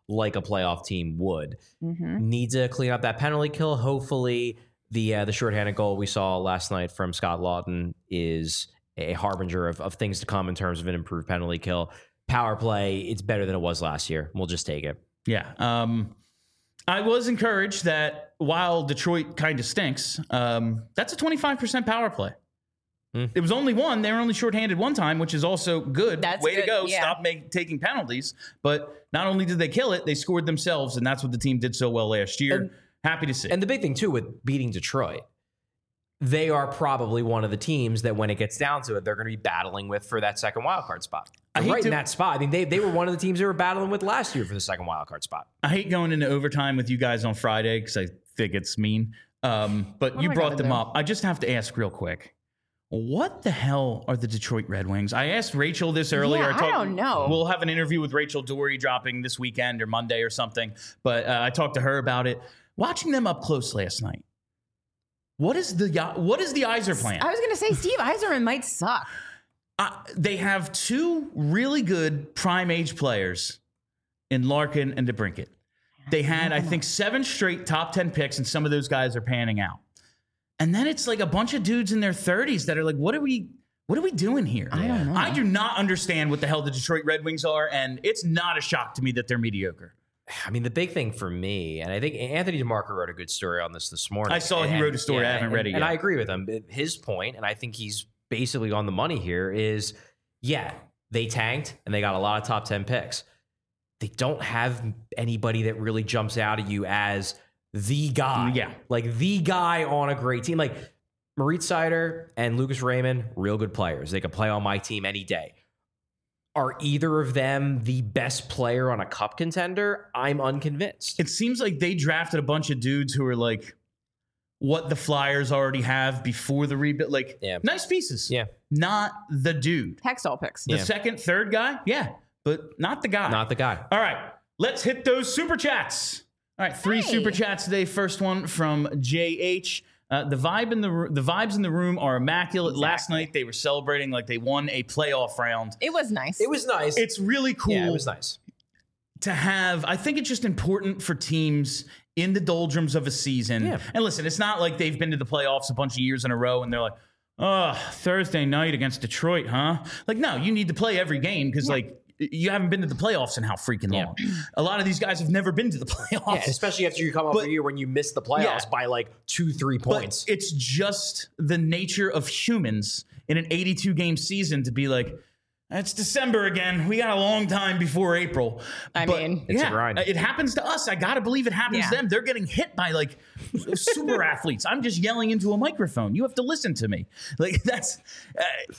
C: like a playoff team would.
B: Mm-hmm.
C: Need to clean up that penalty kill. Hopefully, the uh, the shorthanded goal we saw last night from Scott Lawton is a harbinger of, of things to come in terms of an improved penalty kill. Power play, it's better than it was last year. We'll just take it.
A: Yeah. Um, I was encouraged that while Detroit kind of stinks, um, that's a twenty-five percent power play.
C: Mm.
A: It was only one. They were only shorthanded one time, which is also good.
B: That's
A: Way
B: good,
A: to go.
B: yeah.
A: Stop make, taking penalties. But not only did they kill it, they scored themselves, and that's what the team did so well last year.
C: And-
A: Happy to see.
C: And the big thing, too, with beating Detroit, they are probably one of the teams that when it gets down to it, they're going to be battling with for that second wildcard spot.
A: I
C: They're
A: hate
C: right
A: to-
C: in that spot. I mean, they, they were one of the teams they were battling with last year for the second wildcard spot.
A: I hate going into overtime with you guys on Friday because I think it's mean. Um, but
B: What
A: you
B: am I
A: brought
B: gonna
A: them
B: do?
A: up. I just have to ask real quick. What the hell are the Detroit Red Wings? I asked Rachel this earlier.
B: Yeah, I don't know.
A: We'll have an interview with Rachel Dory dropping this weekend or Monday or something. But uh, I talked to her about it. Watching them up close last night. What is the what is the Yzer plan?
B: I was going to say Steve Yzerman might suck.
A: Uh, they have two really good prime age players in Larkin and DeBrincat. They had, I think, seven straight top ten picks, and some of those guys are panning out. And then it's like a bunch of dudes in their thirties that are like, what are we what are we doing here?
B: I don't know.
A: I do not understand what the hell the Detroit Red Wings are, and it's not a shock to me that they're mediocre.
C: I mean, the big thing for me, and I think Anthony DeMarco wrote a good story on this this morning.
A: I saw he
C: and,
A: wrote a story.
C: yeah,
A: I haven't
C: and,
A: read it
C: and
A: yet.
C: I agree with him. His point, and I think he's basically on the money here, is, yeah, they tanked and they got a lot of top ten picks. They don't have anybody that really jumps out at you as the guy.
A: Yeah.
C: Like the guy on a great team. Like Moritz Seider and Lucas Raymond, real good players. They could play on my team any day. Are either of them the best player on a cup contender? I'm unconvinced.
A: It seems like they drafted a bunch of dudes who are like what the Flyers already have before the rebuild. Like,
C: Yeah.
A: nice pieces.
C: Yeah.
A: Not the dude.
B: Hextall picks.
A: The
C: Yeah.
A: second, third guy, yeah, but not the guy.
C: Not the guy.
A: All right, let's hit those super chats. All right, three
B: Hey.
A: super chats today. First one from J H. Uh, the vibe in the ro- the vibes in the room are immaculate. Last night they were celebrating like they won a playoff round.
B: It was nice.
C: It was nice.
A: It's really cool
C: Yeah, it was nice.
A: to have. I think it's just important for teams in the doldrums of a season.
C: Yeah.
A: And listen, it's not like they've been to the playoffs a bunch of years in a row and they're like, oh, Thursday night against Detroit, huh? Like, no, you need to play every game because, like, you haven't been to the playoffs in how freaking
C: Yeah.
A: long. A lot of these guys have never been to the playoffs.
C: Yeah, especially after you come off
A: But-
C: a year when you miss the playoffs
A: Yeah.
C: by like two, three points.
A: But it's just the nature of humans in an eighty-two game season to be like, it's December again. We got a long time before April.
B: I
A: But,
B: mean-
C: It's a
A: yeah,
C: grind.
A: It happens to us. I got to believe it happens
B: Yeah.
A: to them. They're getting hit by like super athletes. I'm just yelling into a microphone. You have to listen to me. Like that's uh,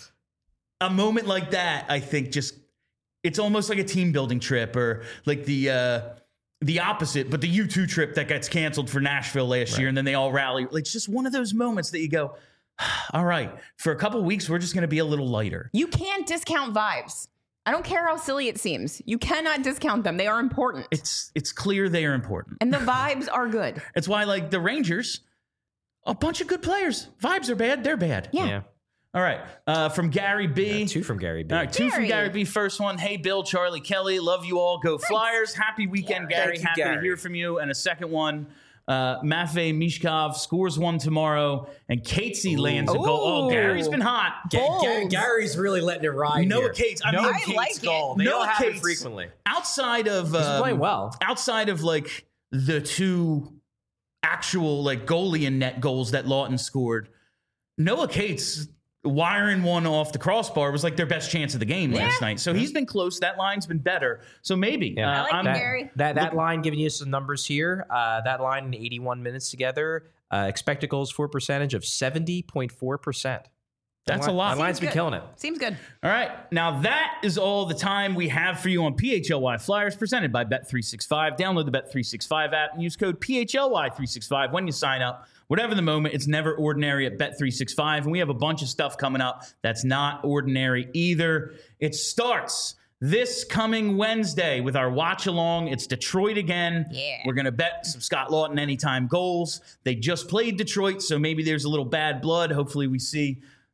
A: a moment like that. I think just it's almost like a team building trip or like the uh, the opposite, but the U two trip that gets canceled for Nashville last year, and then they all rally. Like it's just one of those moments that you go, all right, for a couple of weeks, we're just going to be a little lighter.
B: You can't discount vibes. I don't care how silly it seems. You cannot discount them. They are important.
A: It's it's clear they are important.
B: and the vibes are good.
A: It's why like the Rangers, a bunch of good players. Vibes are bad, they're bad.
B: Yeah.
A: All right, uh, from Gary B.
C: Yeah, two from Gary B.
A: All right, two from
B: Gary.
A: Gary B. First one, hey, Bill, Charlie, Kelly, love you all. Go Flyers. Happy weekend,
C: Yeah,
A: Gary.
C: thank you,
A: Happy to
C: Gary.
A: hear from you. And a second one, uh, Matvey Mishkov scores one tomorrow, and Catesy lands a goal. Oh,
B: Ooh.
A: Gary's been hot.
C: Ga- Ga-
B: Bold.
C: Gary's really letting it ride.
A: Noah
C: here.
A: Cates, I
C: Noah
A: mean- I
C: Cates
B: like it.
C: goal. They
A: Noah
C: don't have it
A: Cates.
C: frequently.
A: Outside of
C: He's
A: um,
C: playing well.
A: outside of like the two actual like goalie and net goals that Lawton scored, Noah Cates wiring one off the crossbar was like their best chance of the game last night. So he's been close. That line's been better. So maybe.
C: Yeah.
B: I like
A: I'm-
B: it,
C: That,
B: Gary.
C: that, that line giving you some numbers here. Uh, that line in eighty-one minutes together, uh, expected goals for percentage of seventy point four percent.
A: That's a lot.
C: That line's been
B: Seems good.
C: killing it.
B: Seems good.
A: All right. Now that is all the time we have for you on P H L Y Flyers presented by Bet three sixty-five. Download the Bet three sixty-five app and use code P H L Y three sixty-five when you sign up. Whatever the moment, it's never ordinary at Bet three sixty-five. And we have a bunch of stuff coming up that's not ordinary either. It starts this coming Wednesday with our watch along. It's Detroit again.
B: Yeah.
A: We're going to bet some Scott Lawton anytime goals. They just played Detroit, so maybe there's a little bad blood. Hopefully we see a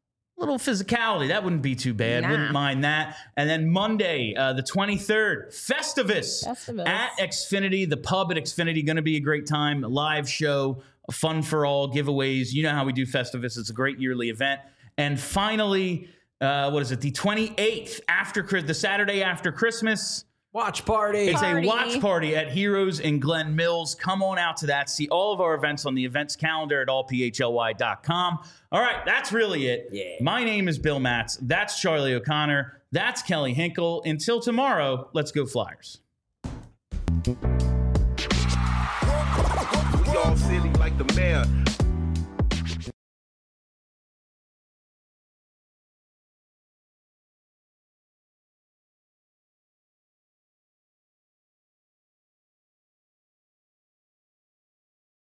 A: little physicality. That wouldn't be too bad.
B: Nah.
A: Wouldn't mind that. And then Monday, uh, the twenty-third, Festivus,
B: Festivus.
A: at Xfinity, the pub at Xfinity. Going to be a great time. A live show, fun for all, giveaways. You know how we do Festivus. It's a great yearly event. And finally, uh, what is it? The twenty-eighth, after the Saturday after Christmas.
C: Watch party.
A: It's
B: Party.
A: a watch party at Heroes in Glen Mills. Come on out to that. See all of our events on the events calendar at all p h l y dot com. All right, that's really it.
C: Yeah.
A: My name is Bill Matz. That's Charlie O'Connor. That's Kelly Hinkle. Until tomorrow, let's go Flyers.
D: We all silly like the mayor.